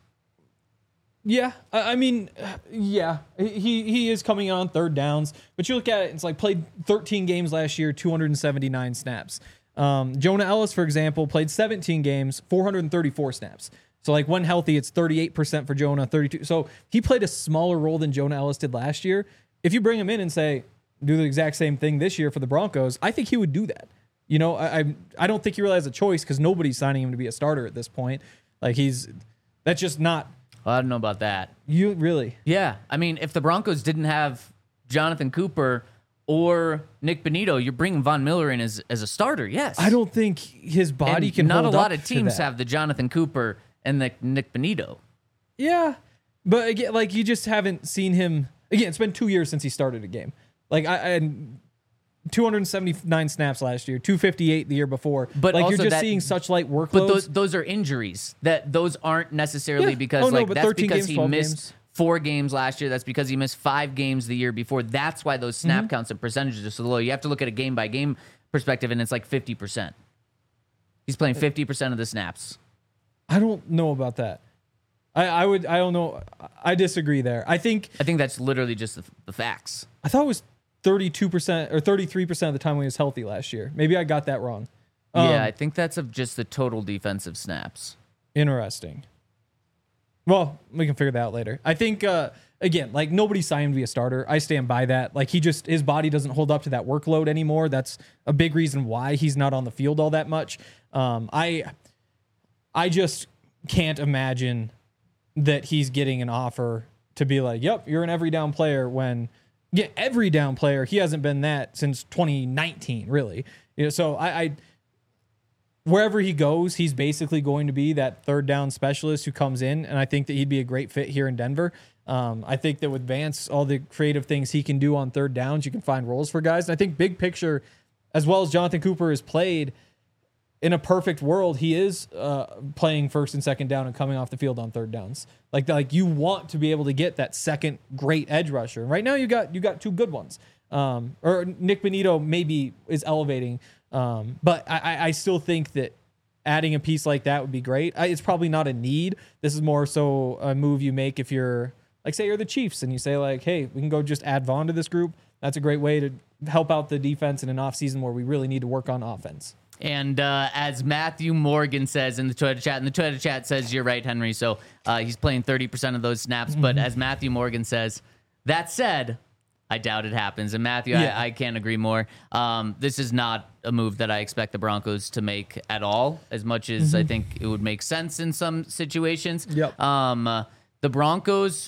Yeah, I, I mean, yeah, he he is coming in on third downs, but you look at it, it's like played thirteen games last year, two hundred seventy-nine snaps. Um, Jonah Ellis, for example, played seventeen games, four hundred thirty-four snaps. So like when healthy, it's thirty-eight percent for Jonah, thirty-two. So he played a smaller role than Jonah Ellis did last year. If you bring him in and say, do the exact same thing this year for the Broncos, I think he would do that. You know, I I, I don't think he really has a choice because nobody's signing him to be a starter at this point. Like he's, that's just not. Well, I don't know about that. You really? Yeah. I mean, if the Broncos didn't have Jonathan Cooper or Nick Bonito, you're bringing Von Miller in as, as a starter, yes. I don't think his body and can not hold a lot up of teams to that. have the Jonathan Cooper and the Nick Bonito. Yeah. But again, like you just haven't seen him. Again, it's been two years since he started a game. Like I and two hundred seventy-nine snaps last year, two fifty-eight the year before. But like also you're just that, seeing such light workloads. But those those are injuries. That those aren't necessarily Yeah. because Oh, no, like but that's thirteen because games, he missed games. four games last year. That's because he missed five games the year before. That's why those snap Mm-hmm. counts and percentages are so low. You have to look at a game by game perspective, and it's like fifty percent. He's playing fifty percent of the snaps. I don't know about that. I, I would. I don't know. I disagree there. I think. I think that's literally just the, the facts. I thought it was thirty-two percent or thirty-three percent of the time when he was healthy last year. Maybe I got that wrong. Um, yeah, I think that's of just the total defensive snaps. Interesting. Well, we can figure that out later. I think, uh, again, like nobody signed him to be a starter. I stand by that. Like he just, his body doesn't hold up to that workload anymore. That's a big reason why he's not on the field all that much. Um, I, I just can't imagine that he's getting an offer to be like, yep, you're an every down player when, yeah, every down player, he hasn't been that since twenty nineteen, really. You know, so I, I wherever he goes, he's basically going to be that third down specialist who comes in, and I think that he'd be a great fit here in Denver. Um, I think that with Vance, all the creative things he can do on third downs, you can find roles for guys. And I think big picture, as well as Jonathan Cooper has played, in a perfect world, he is uh, playing first and second down and coming off the field on third downs. Like, like you want to be able to get that second great edge rusher. And right now, you got you got two good ones. Um, or Nick Benito maybe is elevating. Um, but I, I still think that adding a piece like that would be great. I, it's probably not a need. This is more so a move you make if you're, like, say you're the Chiefs and you say, like, hey, we can go just add Vaughn to this group. That's a great way to help out the defense in an offseason where we really need to work on offense. And uh, as Matthew Morgan says in the Twitter chat, and the Twitter chat says, you're right, Henry. So uh, he's playing thirty percent of those snaps. Mm-hmm. But as Matthew Morgan says, that said, I doubt it happens. And Matthew, yeah. I, I can't agree more. Um, this is not a move that I expect the Broncos to make at all, as much as mm-hmm. I think it would make sense in some situations. Yep. Um, uh, the Broncos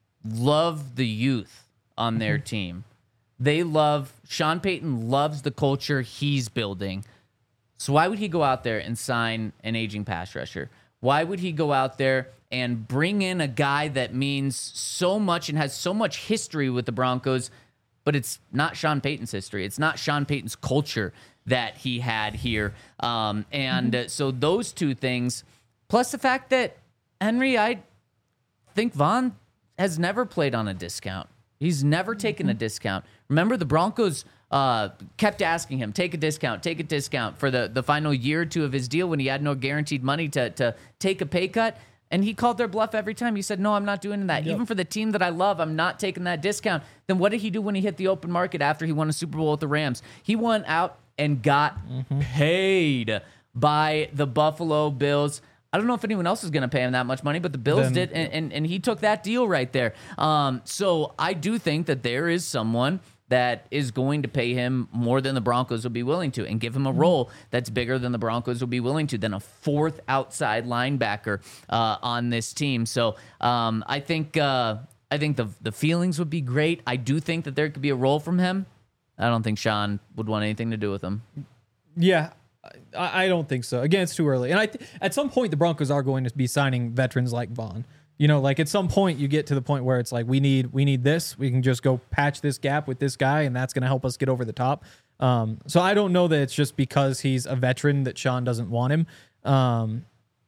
love the youth on their mm-hmm. team. They love, Sean Payton loves the culture he's building. So why would he go out there and sign an aging pass rusher? Why would he go out there and bring in a guy that means so much and has so much history with the Broncos, but it's not Sean Payton's history. It's not Sean Payton's culture that he had here. Um, and mm-hmm. uh, so those two things, plus the fact that, Henry, I think Vaughn has never played on a discount. He's never taken mm-hmm. a discount. Remember, the Broncos uh, kept asking him, take a discount, take a discount for the, the final year or two of his deal when he had no guaranteed money to, to take a pay cut. And he called their bluff every time. He said, no, I'm not doing that. Yep. Even for the team that I love, I'm not taking that discount. Then what did he do when he hit the open market after he won a Super Bowl with the Rams? He went out and got mm-hmm. paid by the Buffalo Bills. I don't know if anyone else is going to pay him that much money, but the Bills then, did, and, and, and he took that deal right there. Um, so I do think that there is someone that is going to pay him more than the Broncos will be willing to and give him a role that's bigger than the Broncos will be willing to, than a fourth outside linebacker uh, on this team. So um, I think uh, I think the the feelings would be great. I do think that there could be a role from him. I don't think Sean would want anything to do with him. Yeah, I, I don't think so. Again, it's too early. And I th- at some point, the Broncos are going to be signing veterans like Vaughn. You know, like at some point you get to the point where it's like, we need, we need this, we can just go patch this gap with this guy and that's going to help us get over the top. Um, so I don't know that it's just because he's a veteran that Sean doesn't want him. Um,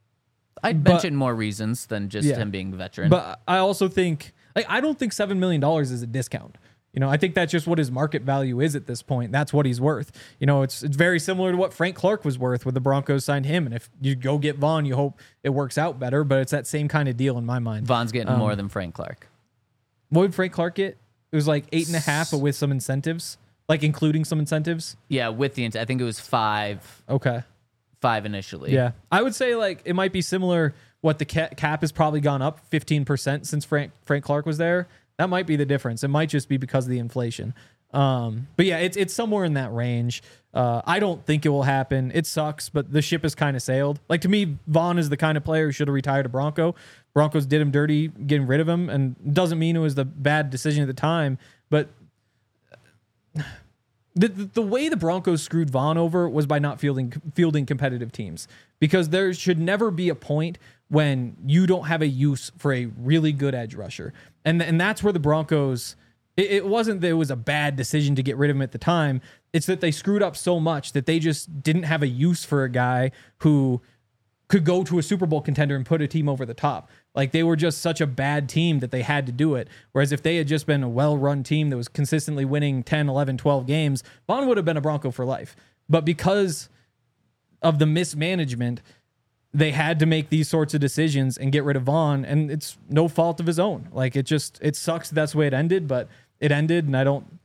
I'd but, mention more reasons than just yeah, him being a veteran. But I also think, like, I don't think seven million dollars is a discount. You know, I think that's just what his market value is at this point. That's what he's worth. You know, it's it's very similar to what Frank Clark was worth when the Broncos signed him. And if you go get Vaughn, you hope it works out better. But it's that same kind of deal in my mind. Vaughn's getting um, more than Frank Clark. What would Frank Clark get? It was like eight and a half, but with some incentives, like including some incentives. Yeah, with the I think it was five. Okay, five initially. Yeah, I would say like it might be similar. What the cap has probably gone up fifteen percent since Frank Frank Clark was there. That might be the difference. It might just be because of the inflation. Um, but yeah, it's it's somewhere in that range. Uh, I don't think it will happen. It sucks, but the ship has kind of sailed. Like, to me, Vaughn is the kind of player who should have retired a Bronco. Broncos did him dirty getting rid of him, and doesn't mean it was the bad decision at the time. But the the, the way the Broncos screwed Vaughn over was by not fielding fielding competitive teams, because there should never be a point when you don't have a use for a really good edge rusher. And and that's where the Broncos, it, it wasn't that it was a bad decision to get rid of him at the time. It's that they screwed up so much that they just didn't have a use for a guy who could go to a Super Bowl contender and put a team over the top. Like, they were just such a bad team that they had to do it. Whereas if they had just been a well-run team that was consistently winning ten, eleven, twelve games, Vaughn would have been a Bronco for life. But because of the mismanagement, they had to make these sorts of decisions and get rid of Vaughn, and it's no fault of his own. Like, it just, it sucks that's the way it ended, but it ended, and I don't,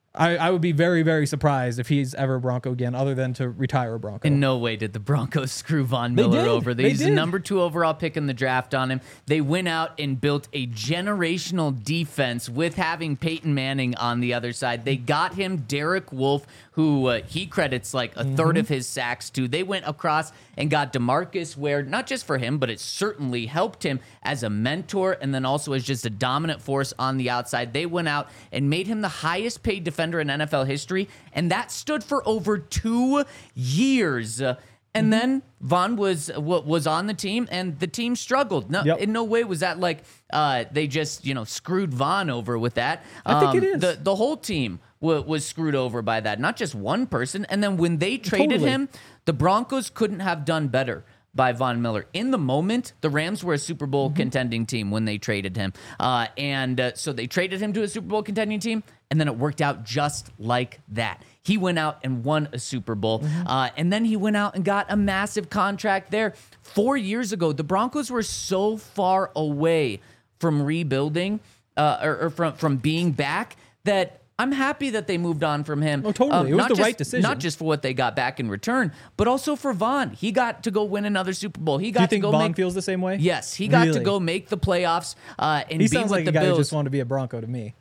I, I would be very, very surprised if he's ever a Bronco again, other than to retire a Bronco. In no way did the Broncos screw Von They Miller did. over. They He's the did. number two overall pick in the draft on him. They went out and built a generational defense with having Peyton Manning on the other side. They got him Derek Wolfe, who uh, he credits like a third of his sacks to. They went across and got DeMarcus Ware, not just for him, but it certainly helped him as a mentor and then also as just a dominant force on the outside. They went out and made him the highest paid defender in N F L history, and that stood for over two years. Uh, and then Von was wa- was on the team, and the team struggled. No, Yep. in no way was that like uh, they just you know screwed Von over with that. I think it Um, is. The the whole team wa- was screwed over by that, not just one person. And then when they traded Totally. him, the Broncos couldn't have done better by Von Miller. In the moment, the Rams were a Super Bowl Mm-hmm. contending team when they traded him. Uh, and uh, so they traded him to a Super Bowl contending team, and then it worked out just like that. He went out and won a Super Bowl, Mm-hmm. uh, and then he went out and got a massive contract there. Four years ago, the Broncos were so far away from rebuilding uh, or, or from, from being back that I'm happy that they moved on from him. Oh, totally. It was not the just- right decision. Not just for what they got back in return, but also for Von. He got to go win another Super Bowl. He got Do you think to go Vaughn make, feels the same way? Yes, he got to Really? go make the playoffs uh, and He be sounds with like the a guy Bills. who just wanted to be a Bronco to me.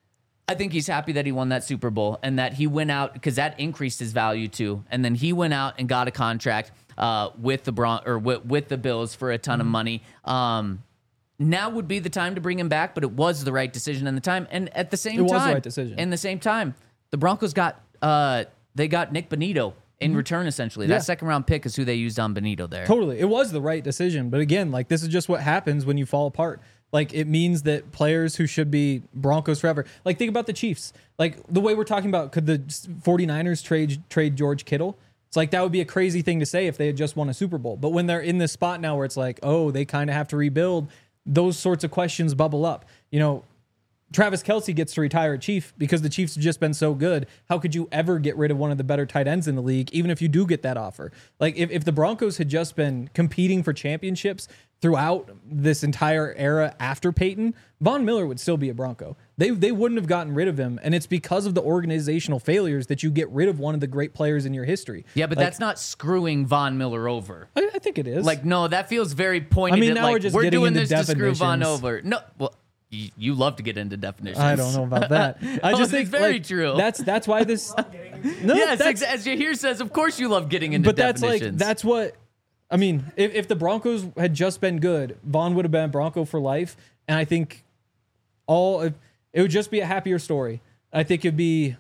I think he's happy that he won that Super Bowl and that he went out because that increased his value too. And then he went out and got a contract uh, with the Bron- or with, with the Bills for a ton Mm-hmm. of money. Um, now would be the time to bring him back, but it was the right decision in the time. And at the same It was the time, right decision. In the same time, the Broncos got uh, they got Nick Bonito in return. Essentially, Mm-hmm. Yeah. that second round pick is who they used on Bonito there. Totally. It was the right decision. But again, like this is just what happens when you fall apart. Like it means that players who should be Broncos forever. Like think about the Chiefs. Like the way we're talking about, could the 49ers trade trade George Kittle? It's like that would be a crazy thing to say if they had just won a Super Bowl. But when they're in this spot now where it's like, oh, they kind of have to rebuild, those sorts of questions bubble up. You know, Travis Kelce gets to retire at Chief because the Chiefs have just been so good. How could you ever get rid of one of the better tight ends in the league, even if you do get that offer? Like, if, if the Broncos had just been competing for championships throughout this entire era after Peyton, Von Miller would still be a Bronco. They they wouldn't have gotten rid of him, and it's because of the organizational failures that you get rid of one of the great players in your history. Yeah, but Like, that's not screwing Von Miller over. I, I think it is. Like, no, that feels very pointed. I mean, at, now like, we're just we're getting doing into this to screw Von definitions. over. No, well, you, you love to get into definitions. I don't know about that. I Oh, just it's think very like, true. That's that's why this. No, Yes, that's, ex- as Yahir says, of course you love getting into but that's definitions. like that's what I mean. If, if the Broncos had just been good, Vaughn would have been a Bronco for life, and I think all it would just be a happier story. I think it'd be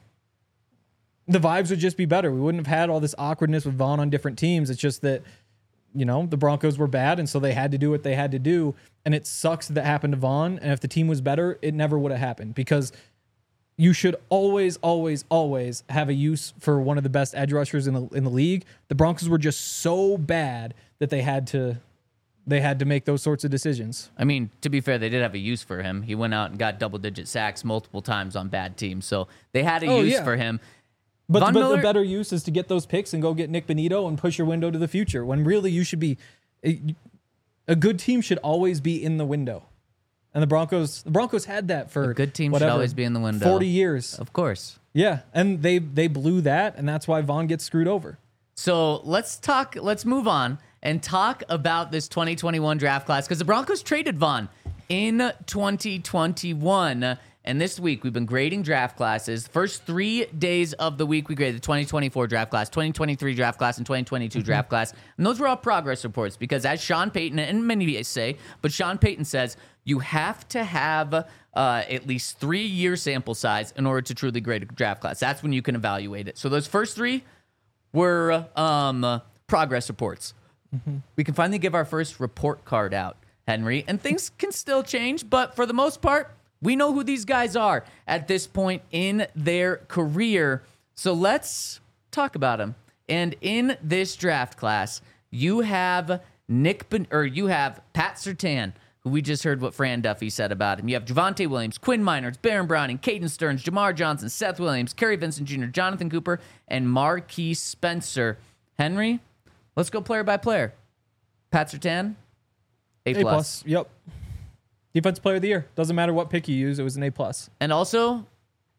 the vibes would just be better. We wouldn't have had all this awkwardness with Vaughn on different teams. It's just that you know the Broncos were bad, and so they had to do what they had to do, and it sucks that, that happened to Vaughn. And if the team was better, it never would have happened because you should always, always, always have a use for one of the best edge rushers in the in the league. The Broncos were just so bad that they had to they had to make those sorts of decisions. I mean, to be fair, they did have a use for him. He went out and got double-digit sacks multiple times on bad teams, so they had a Oh, use yeah. for him. But, Von but Miller- the better use is to get those picks and go get Nick Bonito and push your window to the future. When really you should be a, a good team should always be in the window. And the Broncos the Broncos had that for A good team should whatever, always be in the window. forty years. Of course. Yeah, and they they blew that, and that's why Vaughn gets screwed over. So let's talk. Let's move on and talk about this twenty twenty-one draft class because the Broncos traded Vaughn in twenty twenty-one. And this week we've been grading draft classes. First three days of the week we graded the twenty twenty-four draft class, twenty twenty-three draft class, and twenty twenty-two draft class. And those were all progress reports because, as Sean Payton and many say, but Sean Payton says you have to have uh, at least three year sample size in order to truly grade a draft class. That's when you can evaluate it. So those first three were um, progress reports. We can finally give our first report card out, Henry, and things can still change, but for the most part, we know who these guys are at this point in their career. So let's talk about them. And in this draft class, you have Nick ben- or you have Pat Surtain, who we just heard what Fran Duffy said about him. You have Javonte Williams, Quinn Miners, Baron Browning, Caden Stearns, Jamar Johnson, Seth Williams, Kerry Vincent Junior, Jonathan Cooper, and Marquise Spencer. Henry, let's go player by player. Pat Surtain, A+. A plus. Yep. Defensive player of the year. Doesn't matter what pick you use. It was an A plus. And also,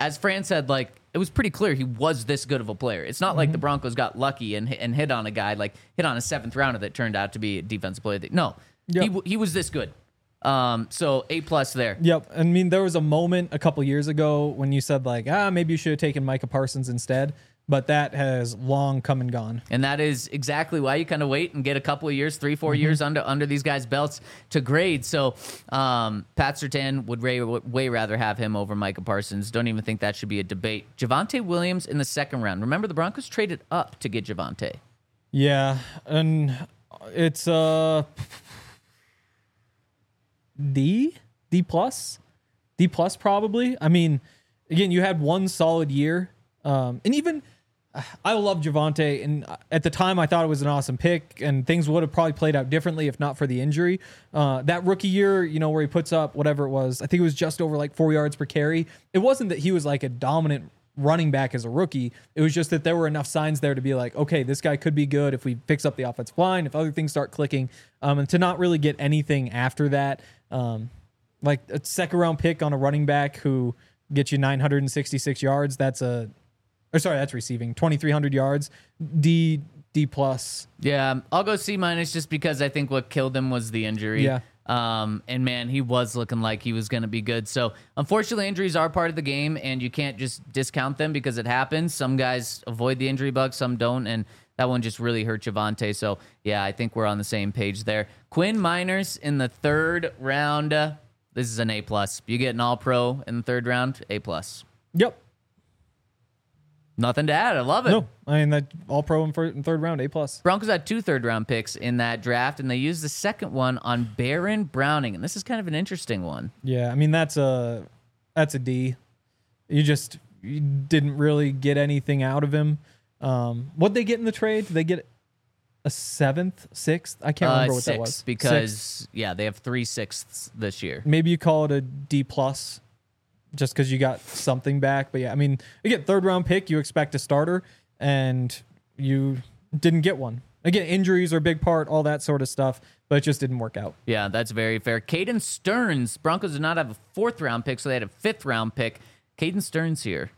as Fran said, like it was pretty clear he was this good of a player. It's not like the Broncos got lucky and and hit on a guy, like hit on a seventh rounder that turned out to be a defensive player. No, Yep. he w- he was this good. Um, so A plus there. Yep. I mean, there was a moment a couple years ago when you said like, ah, maybe you should have taken Micah Parsons instead, but that has long come and gone. And that is exactly why you kind of wait and get a couple of years, three, four years under under these guys' belts to grade. So um, Pat Surtain would way, way rather have him over Micah Parsons. Don't even think that should be a debate. Javonte Williams in the second round. Remember, the Broncos traded up to get Javonte. Yeah, and it's uh D D plus D plus probably. I mean, again, you had one solid year, um, and even I love Javonte, and at the time I thought it was an awesome pick, and things would have probably played out differently if not for the injury. Uh, that rookie year, you know, where he puts up whatever it was, I think it was just over like four yards per carry. It wasn't that he was like a dominant running back as a rookie. It was just that there were enough signs there to be like, okay, this guy could be good if we fix up the offensive line, if other things start clicking, um, and to not really get anything after that. Um, like a second round pick on a running back who gets you nine hundred sixty-six yards. That's a, or sorry, that's receiving twenty-three hundred yards. D, D plus. Yeah, I'll go C minus just because I think what killed him was the injury. Yeah. Um, and man, he was looking like he was going to be good. So unfortunately, injuries are part of the game, and you can't just discount them because it happens. Some guys avoid the injury bug, some don't, and that one just really hurt Javonte. So yeah, I think we're on the same page there. Quinn Miners in the third round. Uh, this is an A plus. You get an All Pro in the third round, A plus. Yep. Nothing to add. I love it. No, I mean that all pro in, first, in third round, A plus. Broncos had two third round picks in that draft, and they used the second one on Baron Browning, and this is kind of an interesting one. Yeah, I mean that's a that's a D. You just you didn't really get anything out of him. Um, what'd they get in the trade? Did they get a seventh, sixth? I can't remember uh, what sixth, that was. because Sixth. yeah, they have three sixths this year. Maybe you call it a D plus, just because you got something back. But yeah, I mean, again, third round pick, you expect a starter, and you didn't get one. Again, injuries are a big part, all that sort of stuff, but it just didn't work out. Yeah, that's very fair. Caden Stearns, Broncos did not have a fourth round pick, so they had a fifth round pick. Caden Stearns here.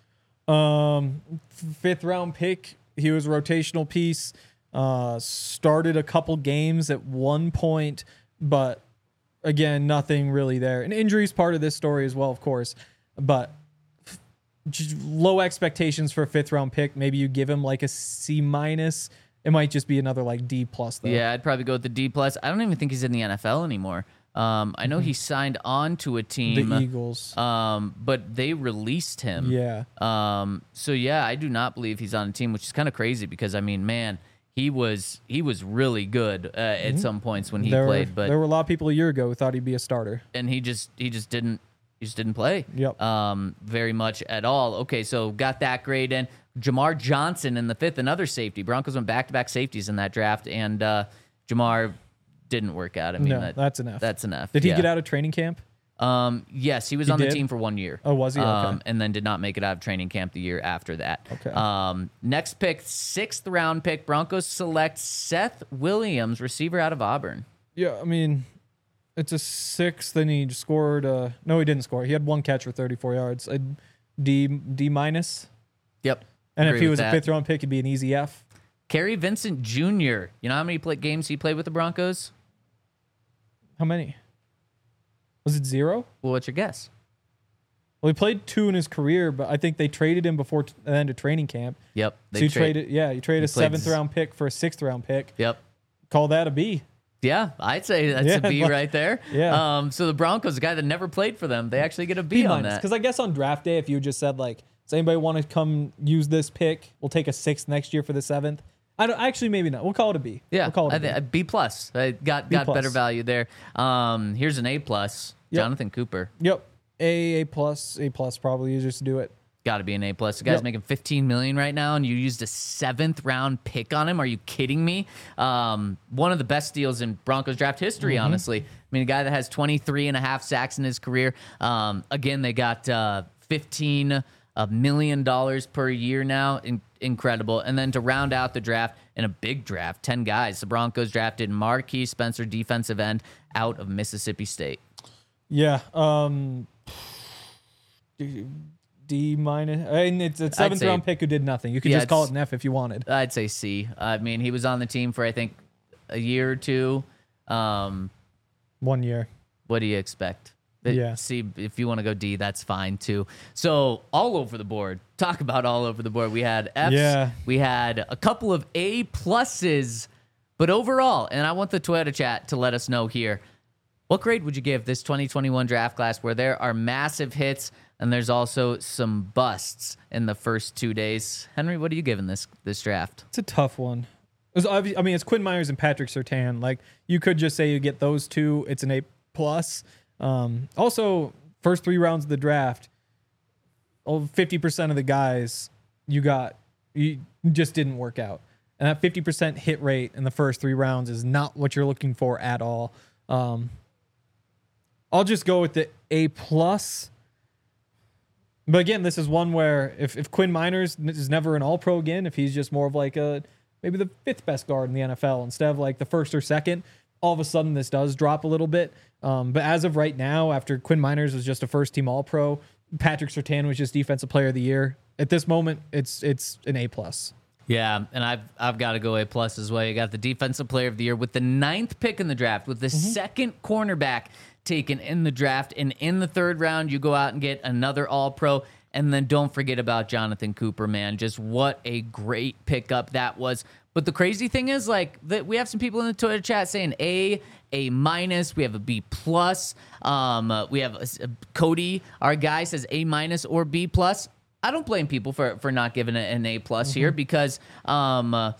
Um, fifth round pick. He was a rotational piece. Uh, started a couple games at one point, but again, nothing really there. And injuries part of this story as well, of course. But f- j- low expectations for a fifth round pick. Maybe you give him like a C minus. It might just be another like D plus though. Yeah, I'd probably go with the D plus. I don't even think he's in the N F L anymore. Um, I know he signed on to a team, The Eagles. um, but they released him. Yeah. Um, so yeah, I do not believe he's on a team, which is kind of crazy because I mean, man, he was he was really good uh, at some points when he there, played, but there were a lot of people a year ago who thought he'd be a starter. and he just he just didn't he just didn't play. Yep. Um, very much at all. Okay, so got that grade in. Jamar Johnson in the fifth, another safety. Broncos went back to back safeties in that draft, and uh, Jamar didn't work out. I mean, No, that, that's enough. That's enough. Did he yeah. get out of training camp? Um, yes, he was He on the did? team for one year. Oh, was he? Okay. Um, and then did not make it out of training camp the year after that. Okay. Um, next pick, sixth round pick. Broncos select Seth Williams, receiver out of Auburn. Yeah, I mean, it's a six. Then he scored. Uh, no, he didn't score. He had one catch for thirty-four yards. A D D minus. Yep. And Agree if he with was that. a fifth round pick, it'd be an easy F. Kerry Vincent Junior You know how many play- games he played with the Broncos? How many? Was it zero? Well, what's your guess? Well, he played two in his career, but I think they traded him before t- the end of training camp. Yep. so you trade- traded, yeah, you traded a he played seventh z- round pick for a sixth round pick. Yep. Call that a B. Yeah, I'd say that's Yeah, a B like- right there. yeah. Um, so the Broncos, a guy that never played for them, they actually get a B, B on minus. that. Because I guess on draft day, if you just said like, does anybody want to come use this pick? We'll take a sixth next year for the seventh. I don't actually maybe not. We'll call it a B. Yeah, we'll call it a I B. thi- a B plus. I got B got plus. better value there. Um, here's an A plus. Yep. Jonathan Cooper. Yep. A, A plus, A plus probably easier to do it. Got to be an A plus. The guy's Yep. making fifteen million right now, and you used a seventh round pick on him. Are you kidding me? Um, one of the best deals in Broncos draft history, Mm-hmm. honestly. I mean, a guy that has twenty-three and a half sacks in his career. Um, again, they got uh, fifteen a million dollars per year now. In- incredible. And then to round out the draft in a big draft, ten guys. The Broncos drafted Marquis Spencer, defensive end, out of Mississippi State. Yeah. Um, D minus. I mean, it's a seventh say- round pick who did nothing. You could Yeah, just call it it's- an F if you wanted. I'd say C. I mean, he was on the team for I think a year or two. Um, One year. what do you expect? But Yeah. C, if you want to go D, that's fine too. So all over the board. Talk about all over the board. We had Fs. Yeah. We had a couple of A pluses, but overall, and I want the Twitter chat to let us know here. What grade would you give this twenty twenty-one draft class where there are massive hits and there's also some busts in the first two days? Henry, what are you giving this this draft? It's a tough one. It's obvi- I mean, it's Quinn Myers and Patrick Surtain. Like, you could just say you get those two. It's an A plus. Um, also, first three rounds of the draft, oh, fifty percent of the guys you got you just didn't work out. And that fifty percent hit rate in the first three rounds is not what you're looking for at all. Um, I'll just go with the A plus. But again, this is one where if, if Quinn Miners is never an all-pro again, if he's just more of like a maybe the fifth best guard in the N F L instead of like the first or second, all of a sudden this does drop a little bit. Um, but as of right now, after Quinn Miners was just a first-team all-pro, Patrick Surtain was just Defensive Player of the Year. At this moment, it's it's an A plus. Yeah, and I've I've got to go A plus as well. You got the Defensive Player of the Year with the ninth pick in the draft, with the second cornerback taken in the draft, and in the third round, you go out and get another All-Pro. And then don't forget about Jonathan Cooper, man. Just what a great pickup that was. But the crazy thing is, like, that we have some people in the Twitter chat saying A, A minus. We have a B plus. Um, uh, we have a, a Cody, our guy, says A minus or B plus. I don't blame people for for not giving it an A plus here because um, uh,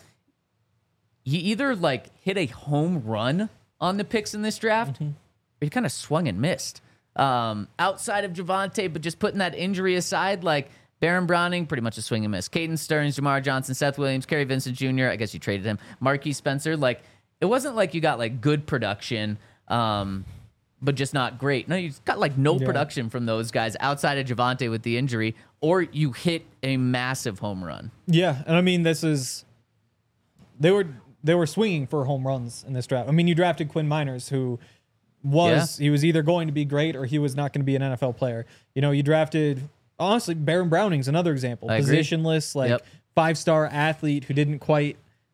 you either like hit a home run on the picks in this draft, or you kind of swung and missed. Um, outside of Javonte, but just putting that injury aside, like Baron Browning, pretty much a swing and miss. Caden Stearns, Jamar Johnson, Seth Williams, Kerry Vincent Junior I guess you traded him. Marquis Spencer. Like, it wasn't like you got like good production, um, but just not great. No, you got like no Yeah. production from those guys outside of Javonte with the injury, or you hit a massive home run. Yeah, and I mean this is they were they were swinging for home runs in this draft. I mean, you drafted Quinn Miners, who was Yeah. he was either going to be great or he was not going to be an N F L player. You know, you drafted honestly Baron Browning's another example, I agree. positionless, like Yep. five star athlete who didn't quite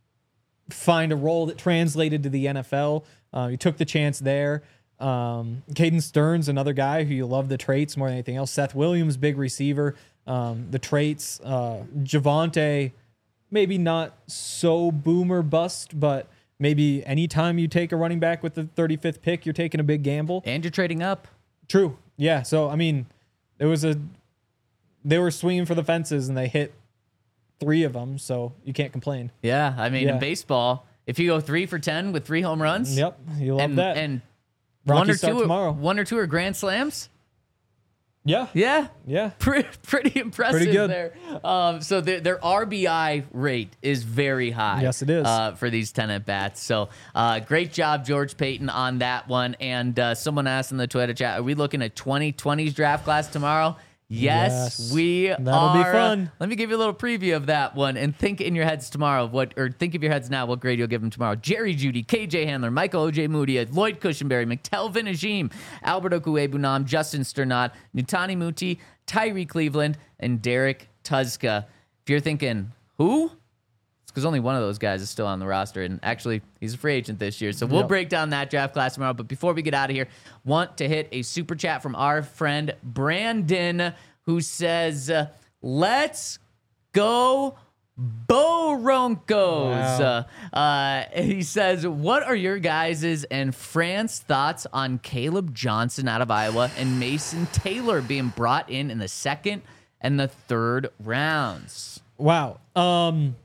find a role that translated to the N F L. Uh, you took the chance there. Um, Caden Stearns, another guy who you love the traits more than anything else. Seth Williams, big receiver. Um, the traits. Uh, Javonte, maybe not so boomer bust, but maybe anytime you take a running back with the thirty-fifth pick, you're taking a big gamble. And you're trading up. True. Yeah. So, I mean, it was a, they were swinging for the fences and they hit three of them. So you can't complain. Yeah, I mean, Yeah. in baseball, if you go three for ten with three home runs, Yep. You love and, that. and Rockies one or start two, tomorrow. one or two are grand slams. yeah. Yeah, Yeah. pretty, pretty impressive Pretty good. there. Um, so their, their R B I rate is very high. Yes, it is. Uh, for these ten at bats. So uh, great job, George Payton, on that one. And uh, someone asked in the Twitter chat, are we looking at twenty twenties draft class tomorrow? Yes, Yes. we That'll are. be fun. Let me give you a little preview of that one and think in your heads tomorrow of what, or think of your heads now what grade you'll give them tomorrow. Jerry Judy, K J Handler, Michael O J Moody, Lloyd Cushenberry, McTelvin Ajim, Albert Okuebunam, Justin Sternot, Nutani Muti, Tyree Cleveland, and Derek Tuzka. If you're thinking, who? It's because only one of those guys is still on the roster, and actually, he's a free agent this year. So we'll Yep. break down that draft class tomorrow. But before we get out of here, want to hit a super chat from our friend Brandon, who says, uh, let's go Boroncos. Wow. Uh, uh, he says, what are your guys' and Fran's thoughts on Caleb Johnson out of Iowa and Mason Taylor being brought in in the second and the third rounds? Wow. Um,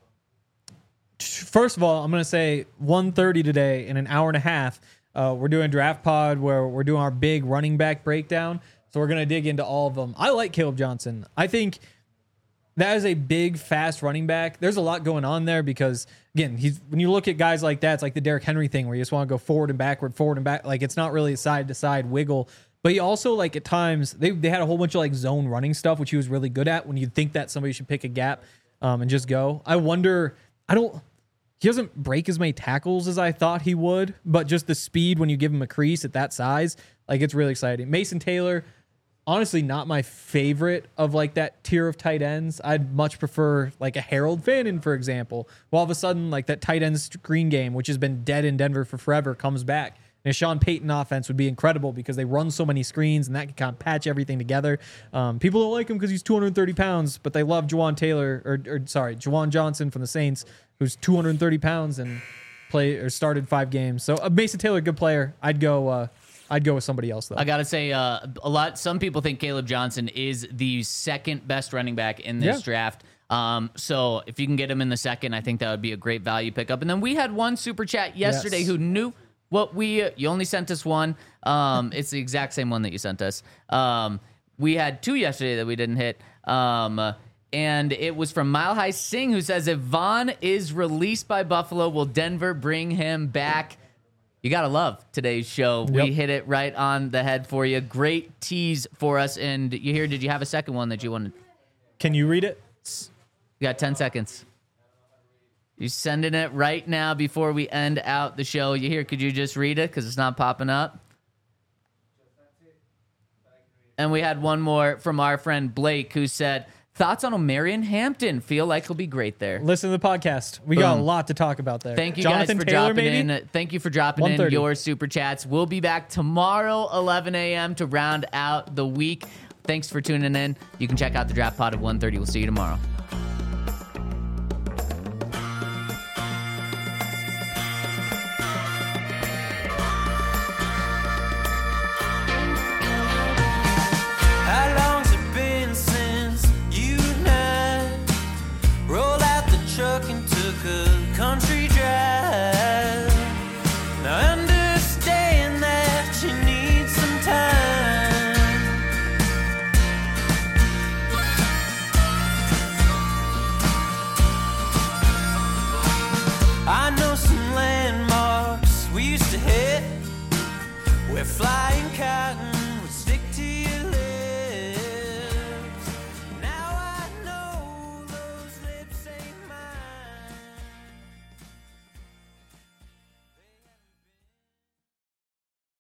first of all, I'm going to say one thirty today in an hour and a half. Uh, we're doing Draft Pod where we're doing our big running back breakdown. So we're going to dig into all of them. I like Caleb Johnson. I think that is a big, fast running back. There's a lot going on there because, again, he's when you look at guys like that, it's like the Derrick Henry thing where you just want to go forward and backward, forward and back. Like, it's not really a side-to-side wiggle. But he also, like, at times, they, they had a whole bunch of, like, zone running stuff, which he was really good at when you'd think that somebody should pick a gap um, and just go. I wonder, I don't, he doesn't break as many tackles as I thought he would, but just the speed when you give him a crease at that size, like, it's really exciting. Mason Taylor, honestly not my favorite of like that tier of tight ends. I'd much prefer like a Harold Fannin, for example. Well, all of a sudden, like that tight end screen game, which has been dead in Denver for forever, comes back. And a Sean Payton offense would be incredible because they run so many screens and that can kind of patch everything together. Um, people don't like him because he's two hundred thirty pounds, but they love Juwan Taylor, or, or sorry, Juwan Johnson from the Saints, who's two hundred thirty pounds and play or started five games. So uh, Mason Taylor, good player. I'd go. Uh, I'd go with somebody else though. I gotta say, uh, a lot. Some people think Caleb Johnson is the second best running back in this Yeah. draft. Um, so if you can get him in the second, I think that would be a great value pickup. And then we had one super chat yesterday Yes. who knew what we. Uh, you only sent us one. Um, it's the exact same one that you sent us. Um, we had two yesterday that we didn't hit. Um, uh, and it was from Mile High Singh, who says, if Vaughn is released by Buffalo, will Denver bring him back? You got to love today's show. Yep. We hit it right on the head for you. Great tease for us. And you hear, did you have a second one that you wanted? Can you read it? You got ten seconds. You sending it right now before we end out the show. You hear, could you just read it? Because it's not popping up. And we had one more from our friend Blake, who said, thoughts on Omarion Hampton? Feel like he'll be great there. Listen to the podcast. We got a Boom. lot to talk about there. Thank you Jonathan guys for Taylor, dropping maybe? in. Thank you for dropping in one thirty your super chats. We'll be back tomorrow, eleven a.m. to round out the week. Thanks for tuning in. You can check out the Draft Pod of one thirty. We'll see you tomorrow.